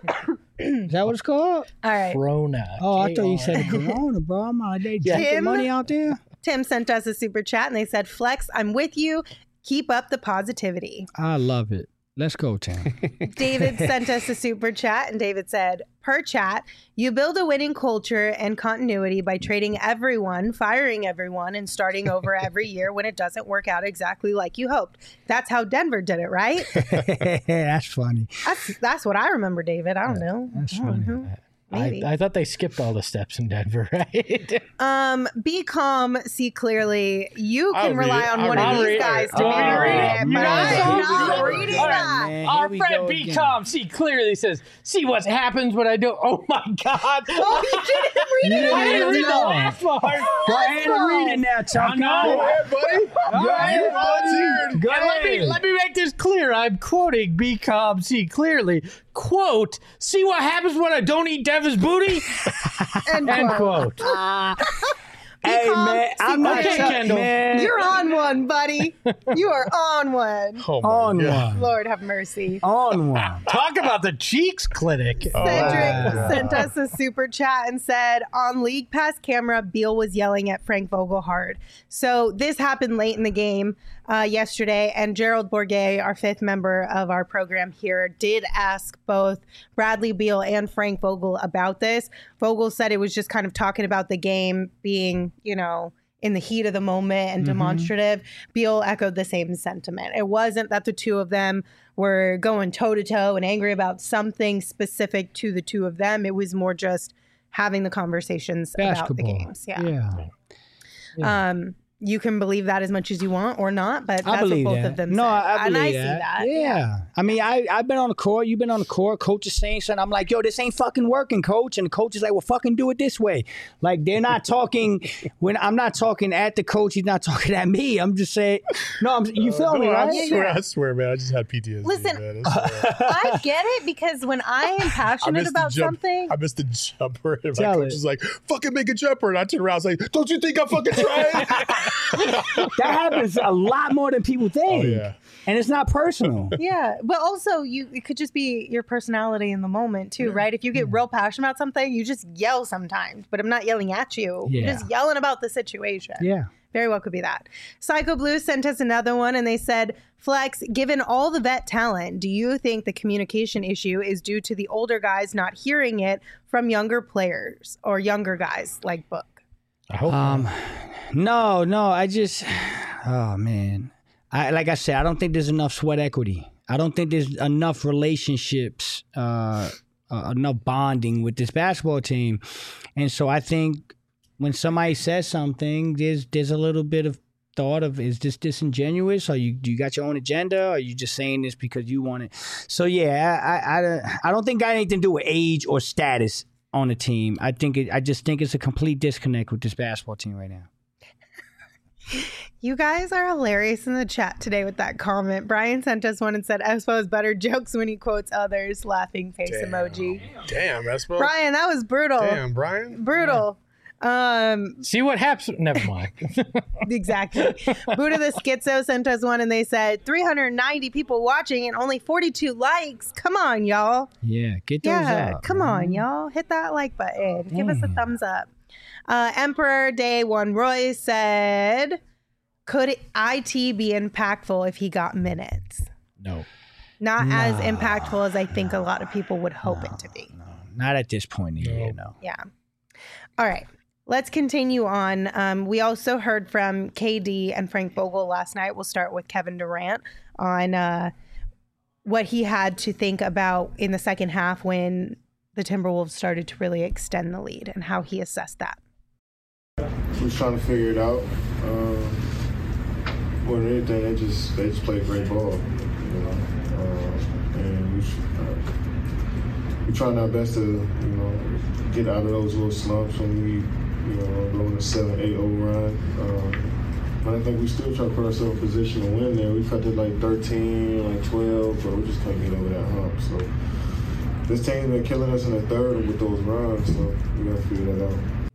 Is that what it's called? All right. Krona. Oh, I thought you K R. said a Corona, bro. I'm out there Yeah. drinking Tim? money out there. Tim sent us a super chat, and they said, Flex, I'm with you. Keep up the positivity. I love it. Let's go, Tam. David sent us a super chat, and David said, per chat, you build a winning culture and continuity by trading everyone, firing everyone, and starting over every year when it doesn't work out exactly like you hoped. That's how Denver did it, right? That's funny. That's that's what I remember, David. I don't know. That's I don't funny. know. Maybe. I, I thought they skipped all the steps in Denver, right? Um, be calm, see clearly. You I'll can read rely it. on I'll one read of it. these guys to Oh, be able to read it, you but guys I'm are- not Here we reading go. that. Man, Our here we friend go Be again. Calm, see clearly says, see what happens when I do. Oh my God. Oh, you didn't read it. You I didn't read the No. last part. Go ahead and read it now, Chuck. know. Go ahead, buddy. Go ahead, You volunteered. Go And let me ahead. let me make this clear. I'm quoting Be Calm, see clearly. Quote, see what happens when I don't eat Devin's booty? End End quote. quote. Hey, calm, man, see I'm not Okay, Chuck, Kendall. man. You're on one, buddy. You are on one. Oh, my on God. one. Lord have mercy. On one. Talk about the cheeks clinic. Cedric wow. sent us a super chat and said, on League Pass camera, Beal was yelling at Frank Vogel hard. So this happened late in the game uh, yesterday, and Gerald Bourget, our fifth member of our program here, did ask both Bradley Beal and Frank Vogel about this. Vogel said it was just kind of talking about the game being, you know, in the heat of the moment and demonstrative. Beal echoed the same sentiment. It wasn't that the two of them were going toe to toe and angry about something specific to the two of them. It was more just having the conversations about the Basketball. games. Yeah. Yeah. Um, you can believe that as much as you want or not, but I that's what believe both that. of them no, said. I, I and believe I see that. Yeah. I mean, I, I've been on the court. You've been on the court. Coach is saying something. I'm like, yo, this ain't fucking working, coach. And the coach is like, well, fucking do it this way. Like, they're not talking when I'm not talking at the coach. He's not talking at me. I'm just saying, no, I'm, you feel me, No, I right? swear, I swear, man. I just had P T S D. Listen, man. I swear. I get it because when I am I passionate missed the about jump. something, I missed the jumper. And my Tell coach it. was like, fucking make a jumper. And I turned around. I was like, don't you think I'm fucking trying? That happens a lot more than people think. Oh, yeah. And it's not personal. yeah, but also you it could just be your personality in the moment too, right? If you get real passionate about something, you just yell sometimes. But I'm not yelling at you. You're Yeah. just yelling about the situation. Yeah. Very well could be that. Psycho Blue sent us another one and they said, Flex, given all the vet talent, do you think the communication issue is due to the older guys not hearing it from younger players or younger guys like Book? I hope Um, no, no, I just, oh man, I like I said, I don't think there's enough sweat equity. I don't think there's enough relationships, uh, uh, enough bonding with this basketball team, and so I think when somebody says something, there's there's a little bit of thought of, is this disingenuous? Or you you got your own agenda? Or are you just saying this because you want it? So yeah, I I, I, I don't think it got anything to do with age or status on the team. I think it, I just think it's a complete disconnect with this basketball team right now. You guys are hilarious in the chat today with that comment. Brian sent us one and said, Espo has better jokes when he quotes others. Laughing face Damn. emoji. Damn, Espo. Brian, that was brutal. Damn, Brian. Brutal. Um, See what happens. Never mind. exactly. Buddha the Schizo sent us one and they said three hundred ninety people watching and only forty-two likes. Come on, y'all. Yeah, get those Yeah, up. come man. on, y'all. Hit that like button. Give us a Damn. thumbs up. Uh, Emperor Day One Roy said, could I T be impactful if he got minutes? No. Not as No. impactful as I think a lot of people would hope it to be. Not at this point in the year, no. Yeah. All right. Let's continue on. Um, we also heard from K D and Frank Vogel last night. We'll start with Kevin Durant on uh, what he had to think about in the second half when the Timberwolves started to really extend the lead and how he assessed that. We was trying to figure it out. Um, more than anything, they just they just played great ball, you know. Uh, and we uh, we trying our best to, you know, get out of those little slumps when we, you know, go on a seven eight oh run. Um, but I think we still try to put ourselves in position to win there. We cut to like thirteen, like twelve, but we just couldn't get over that hump. So this team's been killing us in the third with those runs, so we gotta figure that out.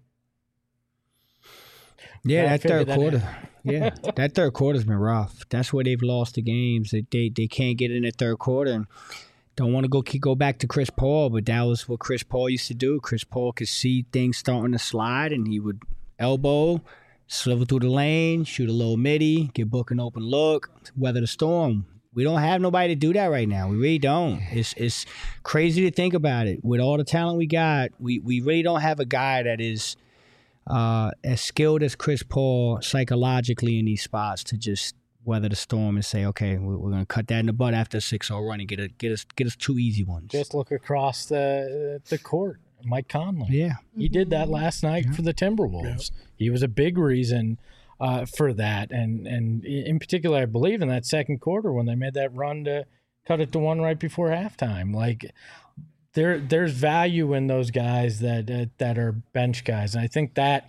Yeah, Yeah, I that third figured that quarter. Yeah, that third quarter's been rough. That's where they've lost the games. They they, they can't get in the third quarter. And don't want to go keep, go back to Chris Paul, but that was what Chris Paul used to do. Chris Paul could see things starting to slide, and he would elbow, swivel through the lane, shoot a little midi, get Book an open look, weather the storm. We don't have nobody to do that right now. We really don't. It's it's crazy to think about it. With all the talent we got, we, we really don't have a guy that is uh, as skilled as Chris Paul psychologically in these spots to just weather the storm and say, okay, we're, we're going to cut that in the butt after a six oh run and get a, get us get us two easy ones. Just look across the the court. Mike Conley. Yeah. He did that last night Yeah. for the Timberwolves. Yeah. He was a big reason uh, for that. And, and in particular, I believe in that second quarter when they made that run to cut it to one right before halftime. Like, there there's value in those guys that uh, that are bench guys. And I think that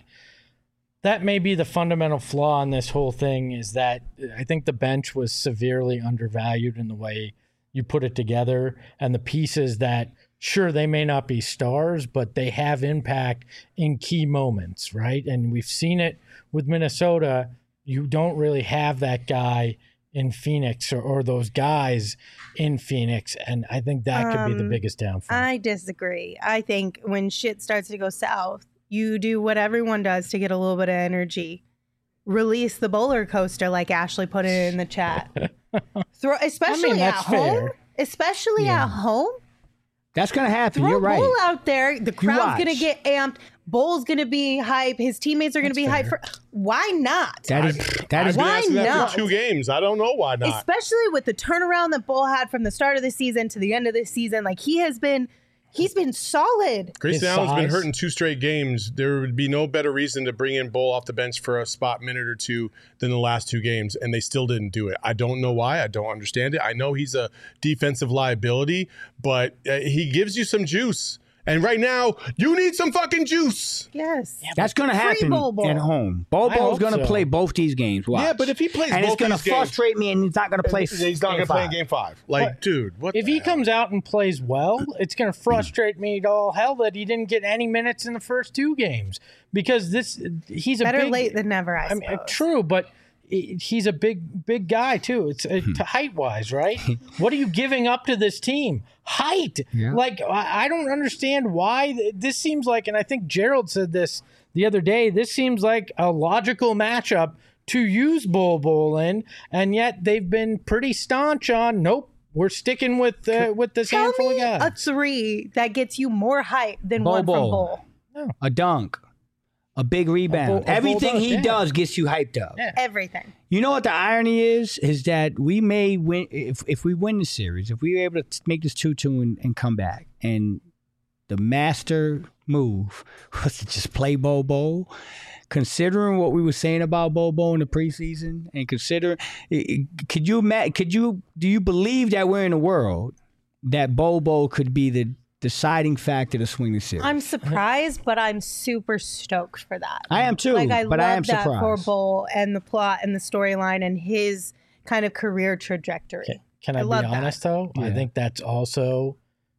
that may be the fundamental flaw in this whole thing is that I think the bench was severely undervalued in the way you put it together and the pieces that – sure, they may not be stars, but they have impact in key moments, right? And we've seen it with Minnesota. You don't really have that guy in Phoenix or, or those guys in Phoenix, and I think that could um, be the biggest downfall. I disagree. I think when shit starts to go south, you do what everyone does to get a little bit of energy. Release the bowler coaster, like Ashley put it in the chat. Throw, especially I mean, at home. Fair. Especially yeah. at home. That's going to happen. Throw You're right. Bull out there. The crowd's going to get amped. Bull's going to be hype. His teammates are going to be hype. For, why not? That is, that I've is been why asking that not? for two games. I don't know why not. Especially with the turnaround that Bull had from the start of the season to the end of the season. Like, he has been... He's been solid. Grayson Allen's been hurt in two straight games. There would be no better reason to bring in Bull off the bench for a spot minute or two than the last two games, and they still didn't do it. I don't know why. I don't understand it. I know he's a defensive liability, but uh, he gives you some juice. And right now, you need some fucking juice. Yes. Yeah, that's going to happen at home. Bobo's going to so. play both these games. Watch. Yeah, but if he plays and both it's going to frustrate games, me, and he's not going to play. He's not going to play in game five. Like, but, dude, what? If the he hell? comes out and plays well, it's going to frustrate me to all hell that he didn't get any minutes in the first two games because this he's a better big, late than never. I, I mean, true, but. He's a big, big guy too. It's uh, to height wise, right? What are you giving up to this team? Height. Yeah. Like I, I don't understand why this seems like, and I think Gerald said this the other day. This seems like a logical matchup to use Bol Bol in, and yet they've been pretty staunch on. Nope, we're sticking with uh, with this Tell handful me of guys. A three that gets you more hype than Bol one Bol. from Bol. No. A dunk. A big rebound. A Bol, a Everything Bol he does, yeah. does gets you hyped up. Yeah. Everything. You know what the irony is? Is that we may win if if we win the series, if we were able to make this two two and, and come back, and the master move was to just play Bol Bol. Considering what we were saying about Bol Bol in the preseason, and considering, could you could you do you believe that we're in a world that Bol Bol could be the deciding factor to swing the series? I'm surprised, but I'm super stoked for that. I am too, like, I but love I am that surprised. for Bol and the plot and the storyline and his kind of career trajectory. Can, can I, I be love honest, that. though? Yeah. I think that's also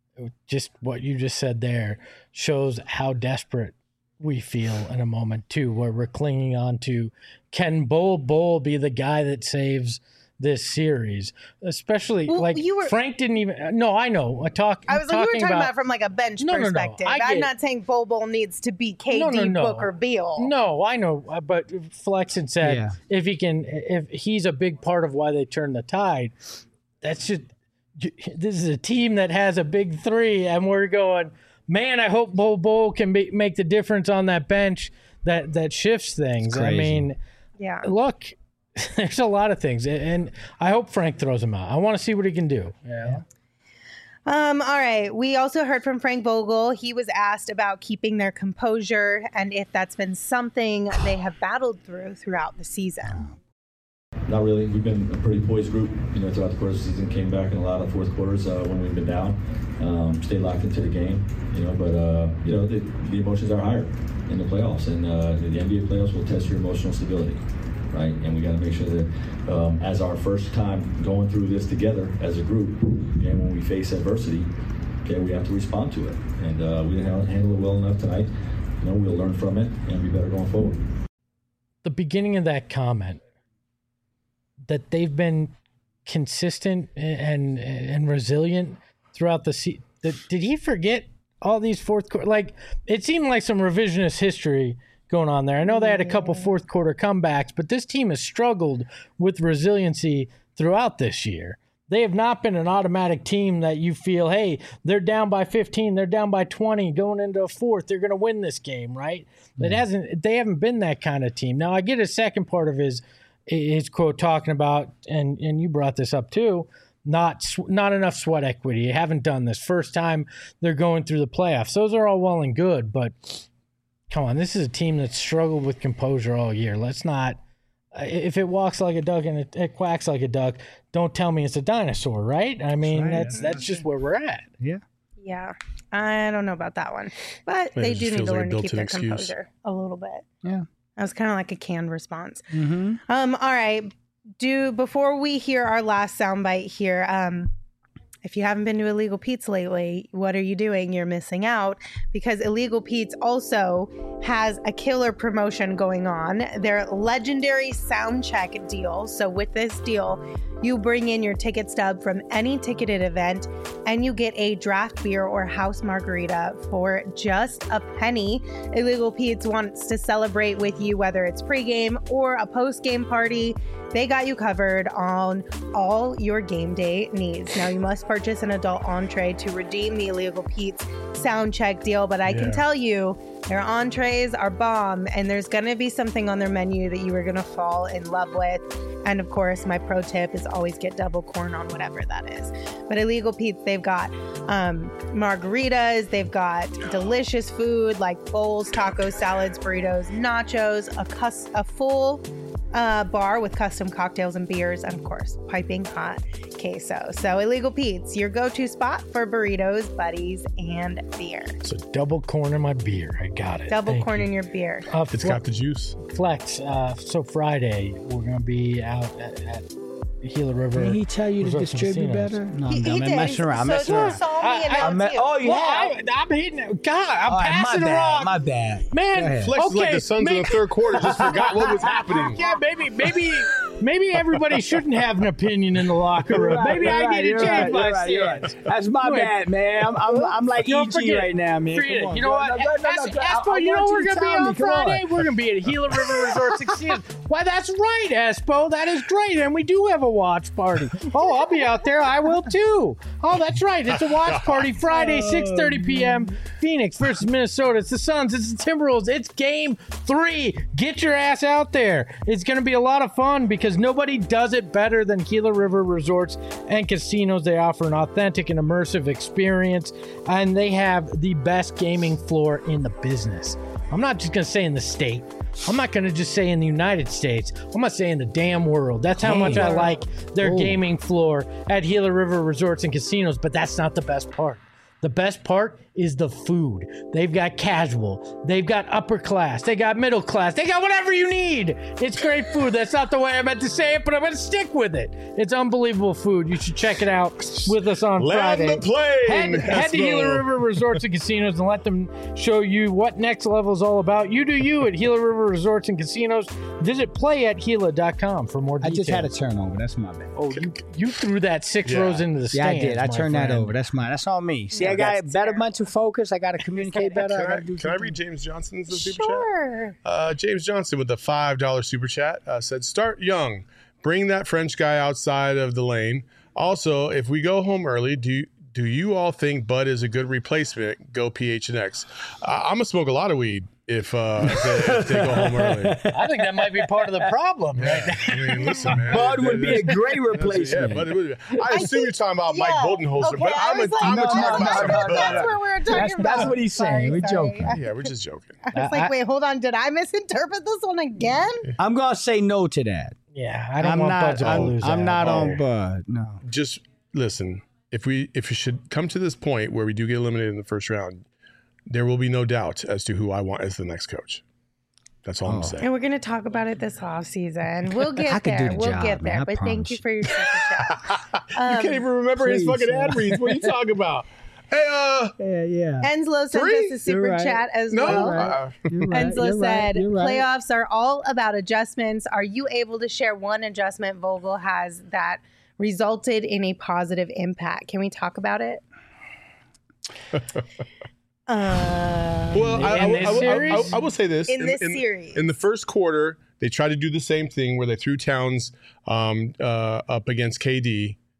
just what you just said there shows how desperate we feel in a moment, too, where we're clinging on to, can Bol Bol be the guy that saves this series? Especially, Well, like, you were- Frank didn't even, no, I know. I, talk, I was like, you were talking talking about, about from like a bench No, no, no. perspective. I I'm get- not saying Bol Bol needs to be K D, No, no, no. Booker, Beal. No, I know, uh, but Flex had said Yeah. if he can, if he's a big part of why they turned the tide, that's just, this is a team that has a big three, and we're going, man, I hope Bol Bol can be, make the difference on that bench that, that shifts things. I crazy. mean, Yeah. look, there's a lot of things, and I hope Frank throws him out. I want to see what he can do. Yeah. Um, all right. We also heard from Frank Vogel. He was asked about keeping their composure and if that's been something they have battled through throughout the season. Not really. We've been a pretty poised group, you know, throughout the course of the season. Came back in a lot of fourth quarters uh, when we've been down. Um, stayed locked into the game, you know. But uh, you know, the, the emotions are higher in the playoffs, and uh, the N B A playoffs will test your emotional stability, right? And we got to make sure that, um, as our first time going through this together as a group, and when we face adversity, okay, we have to respond to it. And uh, we didn't handle it well enough tonight. You know, we'll learn from it and be better going forward. The beginning of that comment, that they've been consistent and and resilient throughout the season. Did he forget all these fourth quarter? Like, it seemed like some revisionist history going on there. I know they had a couple fourth quarter comebacks, but this team has struggled with resiliency throughout this year. They have not been an automatic team that you feel, hey, they're down by fifteen, they're down by twenty, going into a fourth, they're going to win this game, right? Mm. It hasn't. They haven't been that kind of team. Now, I get a second part of his his quote talking about, and and you brought this up too, not not enough sweat equity. You haven't done this. First time they're going through the playoffs. Those are all well and good, but come on, this is a team that's struggled with composure all year. Let's not. If it walks like a duck and it, it quacks like a duck, don't tell me it's a dinosaur, right? I mean, right. that's that's just where we're at. Yeah. Yeah. I don't know about that one. But they do need to learn to keep their excuse. composure a little bit. Yeah. That was kind of like a canned response. Mm-hmm. Um, all right. Do before we hear our last soundbite here, um, if you haven't been to Illegal Pete's lately, what are you doing? You're missing out, because Illegal Pete's also has a killer promotion going on. Their legendary sound check deal. So with this deal, you bring in your ticket stub from any ticketed event and you get a draft beer or house margarita for just a penny. Illegal Pete's wants to celebrate with you, whether it's pregame or a postgame party. They got you covered on all your game day needs. Now, you must purchase an adult entree to redeem the Illegal Pete's sound check deal, but I yeah. can tell you their entrees are bomb, and there's going to be something on their menu that you are going to fall in love with. And of course, my pro tip is always get double corn on whatever that is. But Illegal Pete's, they've got um, margaritas, they've got delicious food like bowls, tacos, salads, burritos, nachos, a, cus- a full uh, bar with custom cocktails and beers, and of course, piping hot queso. So Illegal Pete's, your go-to spot for burritos, buddies, and beer. So double corn in my beer. I got it. Double Thank corn you. in your beer. Uh, It's got the juice. Flex. Uh, so Friday, we're going to be out at, at Gila River. Did he tell you to Resorts and distribute Casinos. better? No, He- I'm, he I'm did. messing around. I'm So messing you around. saw me I- I- announce I'm, you. oh, you Well, have? I, I'm hitting it. God, I'm All right, passing my the bad. rock. My bad. Man, Go ahead. Flex is like okay, the Suns may- in the third quarter. Just forgot what was happening. Yeah, maybe, maybe, maybe everybody shouldn't have an opinion in the locker room. Maybe You're I right, need to you're change right, my you're right, you're right. stance. That's my Go ahead. bad, man. I'm, I'm, I'm like Don't E G forget it. right now, man. Forget Come it. on, You know bro. what? No, no, no, no, As- no, I- Espo, I you know want we're to going to be tell me. on Come on. Friday? We're going to be at Gila River Resort Casinos. Why, that's right, Espo. That is great. And we do have a watch party. Oh, I'll be out there. I will too. Oh, that's right. It's a watch party Friday, six thirty p.m. Phoenix versus Minnesota. It's the Suns. It's the Timberwolves. It's game three. Get your ass out there. It's going to be a lot of fun because nobody does it better than Gila River Resorts and Casinos. They offer an authentic and immersive experience, and they have the best gaming floor in the business. I'm not just going to say in the state. I'm not going to just say in the United States. I'm going to say in the damn world. That's how much I like their Ooh. gaming floor at Gila River Resorts and Casinos, but that's not the best part. The best part is the food. They've got casual. They've got upper class. They got middle class. They got whatever you need. It's great food. That's not the way I meant to say it, but I'm going to stick with it. It's unbelievable food. You should check it out with us on Land Friday. the plane. Head, head to Gila River Resorts and Casinos and let them show you what Next Level is all about. You do you at Gila River Resorts and Casinos. Visit play at gila dot com for more I details. just had a turnover. That's my bad. Oh, you, you threw that six Yeah. rows into the Yeah, I stands. did. I my turned that friend. over. That's mine. That's on me. See, Yeah, I got that's better terrible. mental focus. I got to communicate better. Can I I, gotta do can I something. read James Johnson's super chat? Sure. Uh, James Johnson with the five dollar super chat uh, said, start young. Bring that French guy outside of the lane. Also, if we go home early, do do you all think Bud is a good replacement? Go P H N X. Uh, I'm going to smoke a lot of weed if, uh, if, they, if they go home early. I think that might be part of the problem right now. I mean, listen, man. Bud would be a great Yeah, replacement. Bud would be. I assume you're talking about Mike yeah. Budenholzer, Okay, but I I'm, a, was like, I'm no, a talking no, about no, some no, Bud. no, That's no. what we were talking That's, about. that's what he's saying. Sorry, We're sorry. joking. Yeah, we're just joking. I was like, wait, hold on. Did I misinterpret this one again? I'm going to say no to that. Yeah, I don't I'm want not. Bud to I'm, lose I'm out. not Oh. on Bud. No. Just listen. If we if we should come to this point where we do get eliminated in the first round, there will be no doubt as to who I want as the next coach. That's all I'm Oh. saying. And we're going to talk about it this off season. We'll get I could do there. the We'll job, get there. man, I But thank you promise. for your super chat. you can't even remember his please, fucking man. ad reads. What are you talking about? Hey, uh, Yeah, yeah. Enslow sent Three? us a super You're right. chat as no. well. Uh, You're right, Enslow you're right, said, you're right. playoffs are all about adjustments. Are you able to share one adjustment Vogel has that resulted in a positive impact? Can we talk about it? uh, well, I, I, In I, this I, I, series? I will say this. In this series. In the first quarter, they tried to do the same thing where they threw Towns um, uh, up against K D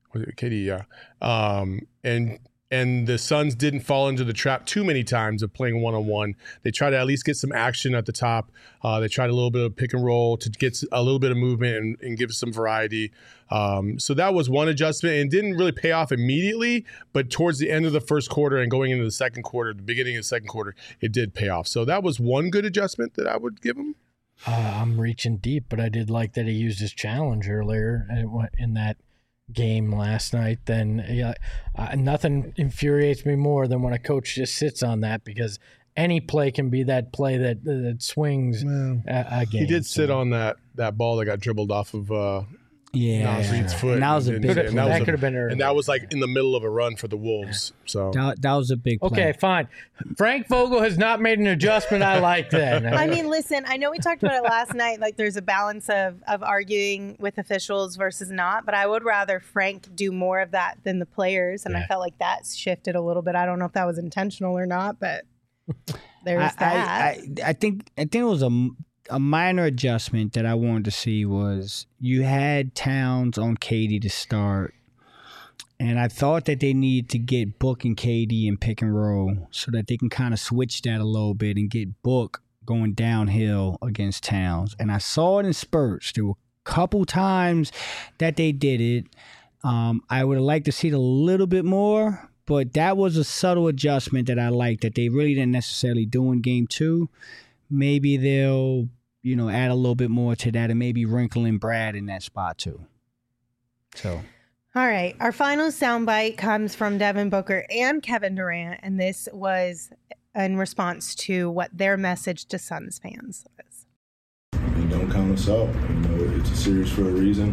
Was it K D? Yeah. Um, and and the Suns didn't fall into the trap too many times of playing one on one. They tried to at least get some action at the top. Uh, they tried a little bit of pick and roll to get a little bit of movement and, and give some variety. Um, so that was one adjustment, and didn't really pay off immediately. But towards the end of the first quarter and going into the second quarter, the beginning of the second quarter, it did pay off. So that was one good adjustment that I would give them. Uh, I'm reaching deep, but I did like that he used his challenge earlier in that game last night. Then yeah, uh, nothing infuriates me more than when a coach just sits on that, because any play can be that play that that swings well, a, a game. He did so. sit on that that ball that got dribbled off of uh, yeah, Nas Reed's foot. And that was a and, big. and, and that, that was could have been early. And that was like in the middle of a run for the Wolves. So that, that was a big play. Okay, fine. Frank Vogel has not made an adjustment. I like that. I mean, listen, I know we talked about it last night. Like, there's a balance of of arguing with officials versus not, but I would rather Frank do more of that than the players, and yeah. I felt like that shifted a little bit. I don't know if that was intentional or not, but there's I, that. I, I, I think I think it was a. A minor adjustment that I wanted to see was you had Towns on K D to start, and I thought that they needed to get Book and K D in pick and roll so that they can kind of switch that a little bit and get Book going downhill against Towns. And I saw it in spurts. There were a couple times that they did it. Um, I would have liked to see it a little bit more, but that was a subtle adjustment that I liked that they really didn't necessarily do in game two. Maybe they'll you know, add a little bit more to that and maybe Wrinkle and Brad in that spot too. So. All right. Our final soundbite comes from Devin Booker and Kevin Durant, and this was in response to what their message to Suns fans was. And don't count us out. You know, it's a series for a reason.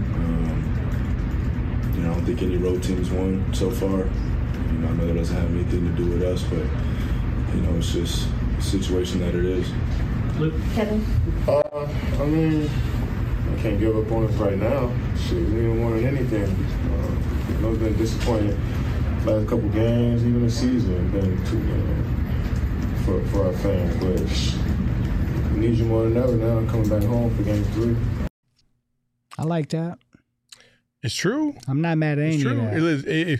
Um, you know, I don't think any road teams won so far. You know, I know that doesn't have anything to do with us, but, you know, it's just a situation that it is. Kevin? Uh, I mean, I can't give up on us right now. Shit, we ain't won anything. Uh, you know, it's been disappointing. Last couple games, even the season, been too, you know, for, for our fans. But we need you more than ever now. I'm coming back home for game three. I like that. It's true. I'm not mad at any it's true. of that. It is, it,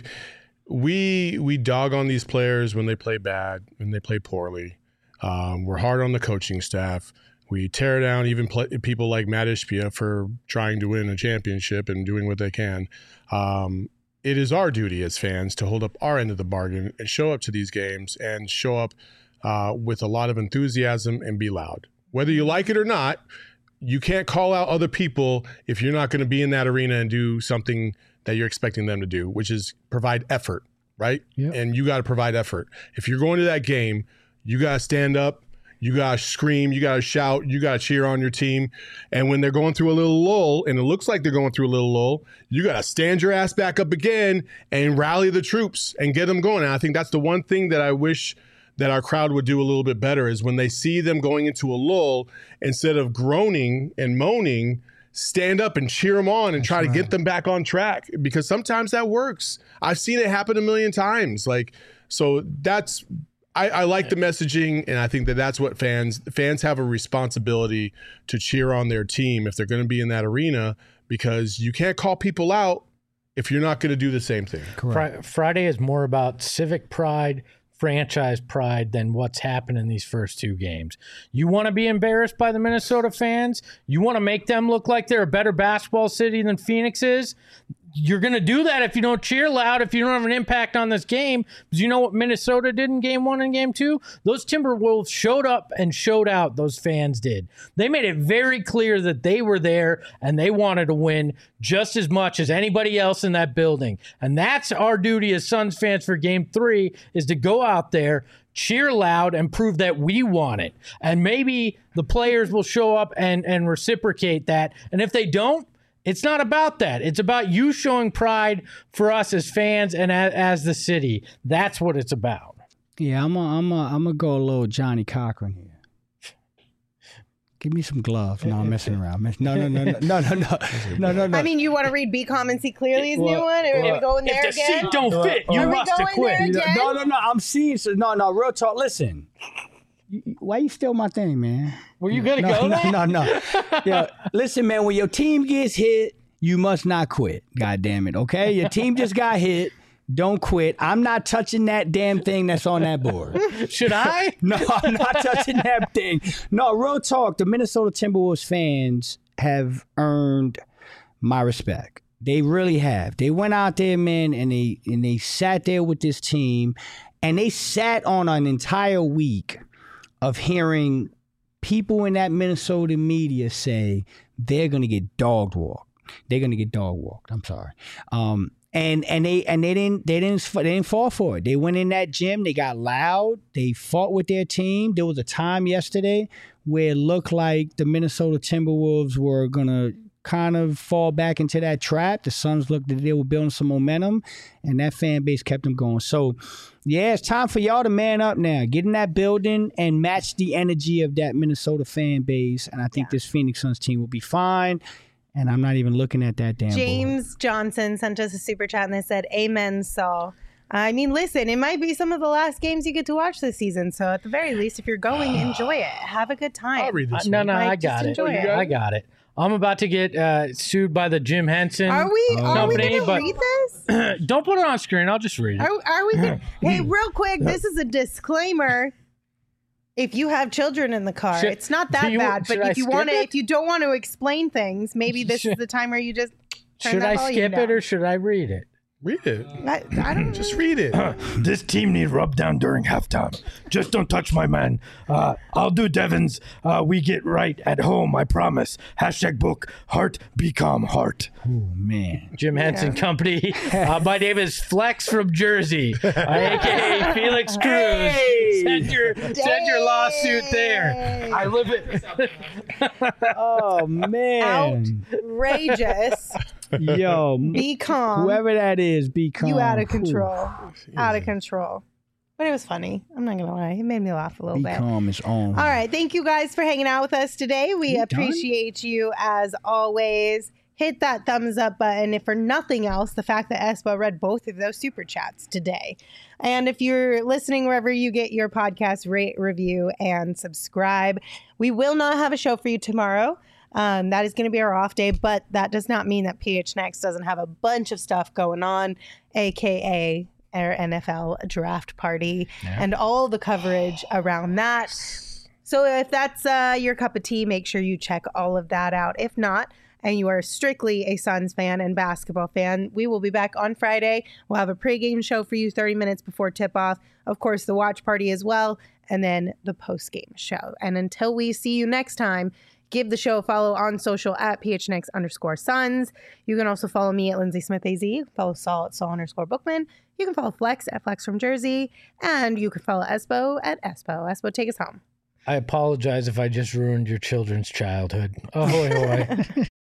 we, we dog on these players when they play bad, when they play poorly. Um, we're hard on the coaching staff. We tear down even play, people like Matt Ishbia for trying to win a championship and doing what they can. Um, it is our duty as fans to hold up our end of the bargain and show up to these games and show up uh, with a lot of enthusiasm and be loud. Whether you like it or not, you can't call out other people if you're not going to be in that arena and do something that you're expecting them to do, which is provide effort, right? Yep. And you got to provide effort. If you're going to that game, you got to stand up, you got to scream, you got to shout, you got to cheer on your team. And when they're going through a little lull, and it looks like they're going through a little lull, you got to stand your ass back up again and rally the troops and get them going. And I think that's the one thing that I wish that our crowd would do a little bit better is when they see them going into a lull, instead of groaning and moaning, stand up and cheer them on and try to get them back on track, because sometimes that works. I've seen it happen a million times. Like, so that's, I, I like the messaging, and I think that that's what fans fans have a responsibility to cheer on their team if they're going to be in that arena, because you can't call people out if you're not going to do the same thing. Fri- Friday is more about civic pride, franchise pride than what's happened in these first two games. You want to be embarrassed by the Minnesota fans? You want to make them look like they're a better basketball city than Phoenix is? You're going to do that if you don't cheer loud, if you don't have an impact on this game. Because you know what Minnesota did in game one and game two? Those Timberwolves showed up and showed out, those fans did. They made it very clear that they were there and they wanted to win just as much as anybody else in that building. And that's our duty as Suns fans for game three, is to go out there, cheer loud, and prove that we want it. And maybe the players will show up and, and reciprocate that. And if they don't, it's not about that. It's about you showing pride for us as fans and as, as the city. That's what it's about. Yeah, I'm a, I'm a, I'm gonna go a little Johnny Cochran here. Give me some gloves. No, I'm messing around. No, no, no, no, no, no, no, no, no, no. I mean, you want to read B Com and see Clearly's well, new one? Are well, we going there if the again? seat don't fit, you Are must we have going quit. there again? No, no, no. I'm serious. No, no. Real talk. Listen. You, why you steal my thing, man? Were you gonna no, go no, there? No, no, no. Yeah, listen, man. When your team gets hit, you must not quit. God damn it. Okay, your team just got hit. Don't quit. I'm not touching that damn thing that's on that board. Should I? No, I'm not touching that thing. No, real talk. The Minnesota Timberwolves fans have earned my respect. They really have. They went out there, man, and they and they sat there with this team, and they sat on an entire week of hearing people in that Minnesota media say they're gonna get dog walked. They're gonna get dog walked. I'm sorry. Um, And and they and they didn't they didn't they didn't fall for it. They went in that gym. They got loud. They fought with their team. There was a time yesterday where it looked like the Minnesota Timberwolves were gonna kind of fall back into that trap. The Suns looked like they were building some momentum, and that fan base kept them going. So, yeah, it's time for y'all to man up now. Get in that building and match the energy of that Minnesota fan base. And I think yeah. this Phoenix Suns team will be fine. And I'm not even looking at that damn James board. Johnson sent us a super chat and they said, amen, Saul. I mean, listen, it might be some of the last games you get to watch this season. So at the very least, if you're going, enjoy it. Have a good time. I'll read this Uh, no, one. no, Like, I got just it. enjoy it. I got it. I'm about to get uh, sued by the Jim Henson Are we, are we company, going to but read this? don't put it on screen. I'll just read it. Are, are we gonna, Hey, real quick, this is a disclaimer. If you have children in the car, Should- it's not do that you- bad. But should I if you skip want to, it? if you don't want to explain things, maybe this Should- is the time where you just turn Should that I volume skip down. it or should I read it? Read it. I, I don't Just read it. This team need rub down during halftime. Just don't touch my man. Uh, I'll do Devon's. Uh, we get right at home, I promise. Hashtag book, heart, be calm, heart. Oh, man. Jim Henson Company. Uh, my name is Flex from Jersey, uh, a k a. Felix Cruz. Hey! Send your send your lawsuit there. I live it. Oh, man. outrageous. Yo, Be calm. whoever that is, be calm. You out of Whew. control. Out of control. But it was funny. I'm not going to lie. It made me laugh a little Be bit. calm is on. All right. Thank you guys for hanging out with us today. We You done? appreciate you as always. Hit that thumbs up button. If for nothing else, the fact that Espo read both of those super chats today. And if you're listening wherever you get your podcast, rate, review, and subscribe. We will not have a show for you tomorrow. Um, that is going to be our off day, but that does not mean that P H Next doesn't have a bunch of stuff going on, A K A our N F L draft party Yeah. and all the coverage around that. So if that's uh, your cup of tea, make sure you check all of that out. If not, and you are strictly a Suns fan and basketball fan, we will be back on Friday. We'll have a pregame show for you thirty minutes before tip-off. Of course, the watch party as well, and then the postgame show. And until we see you next time, give the show a follow on social at phnx underscore Suns. You can also follow me at Lindsay Smith A Z. Follow Saul at Saul underscore Bookman. You can follow Flex at Flex from Jersey. And you can follow Espo at Espo. Espo, take us home. I apologize if I just ruined your children's childhood. Oh, boy, boy.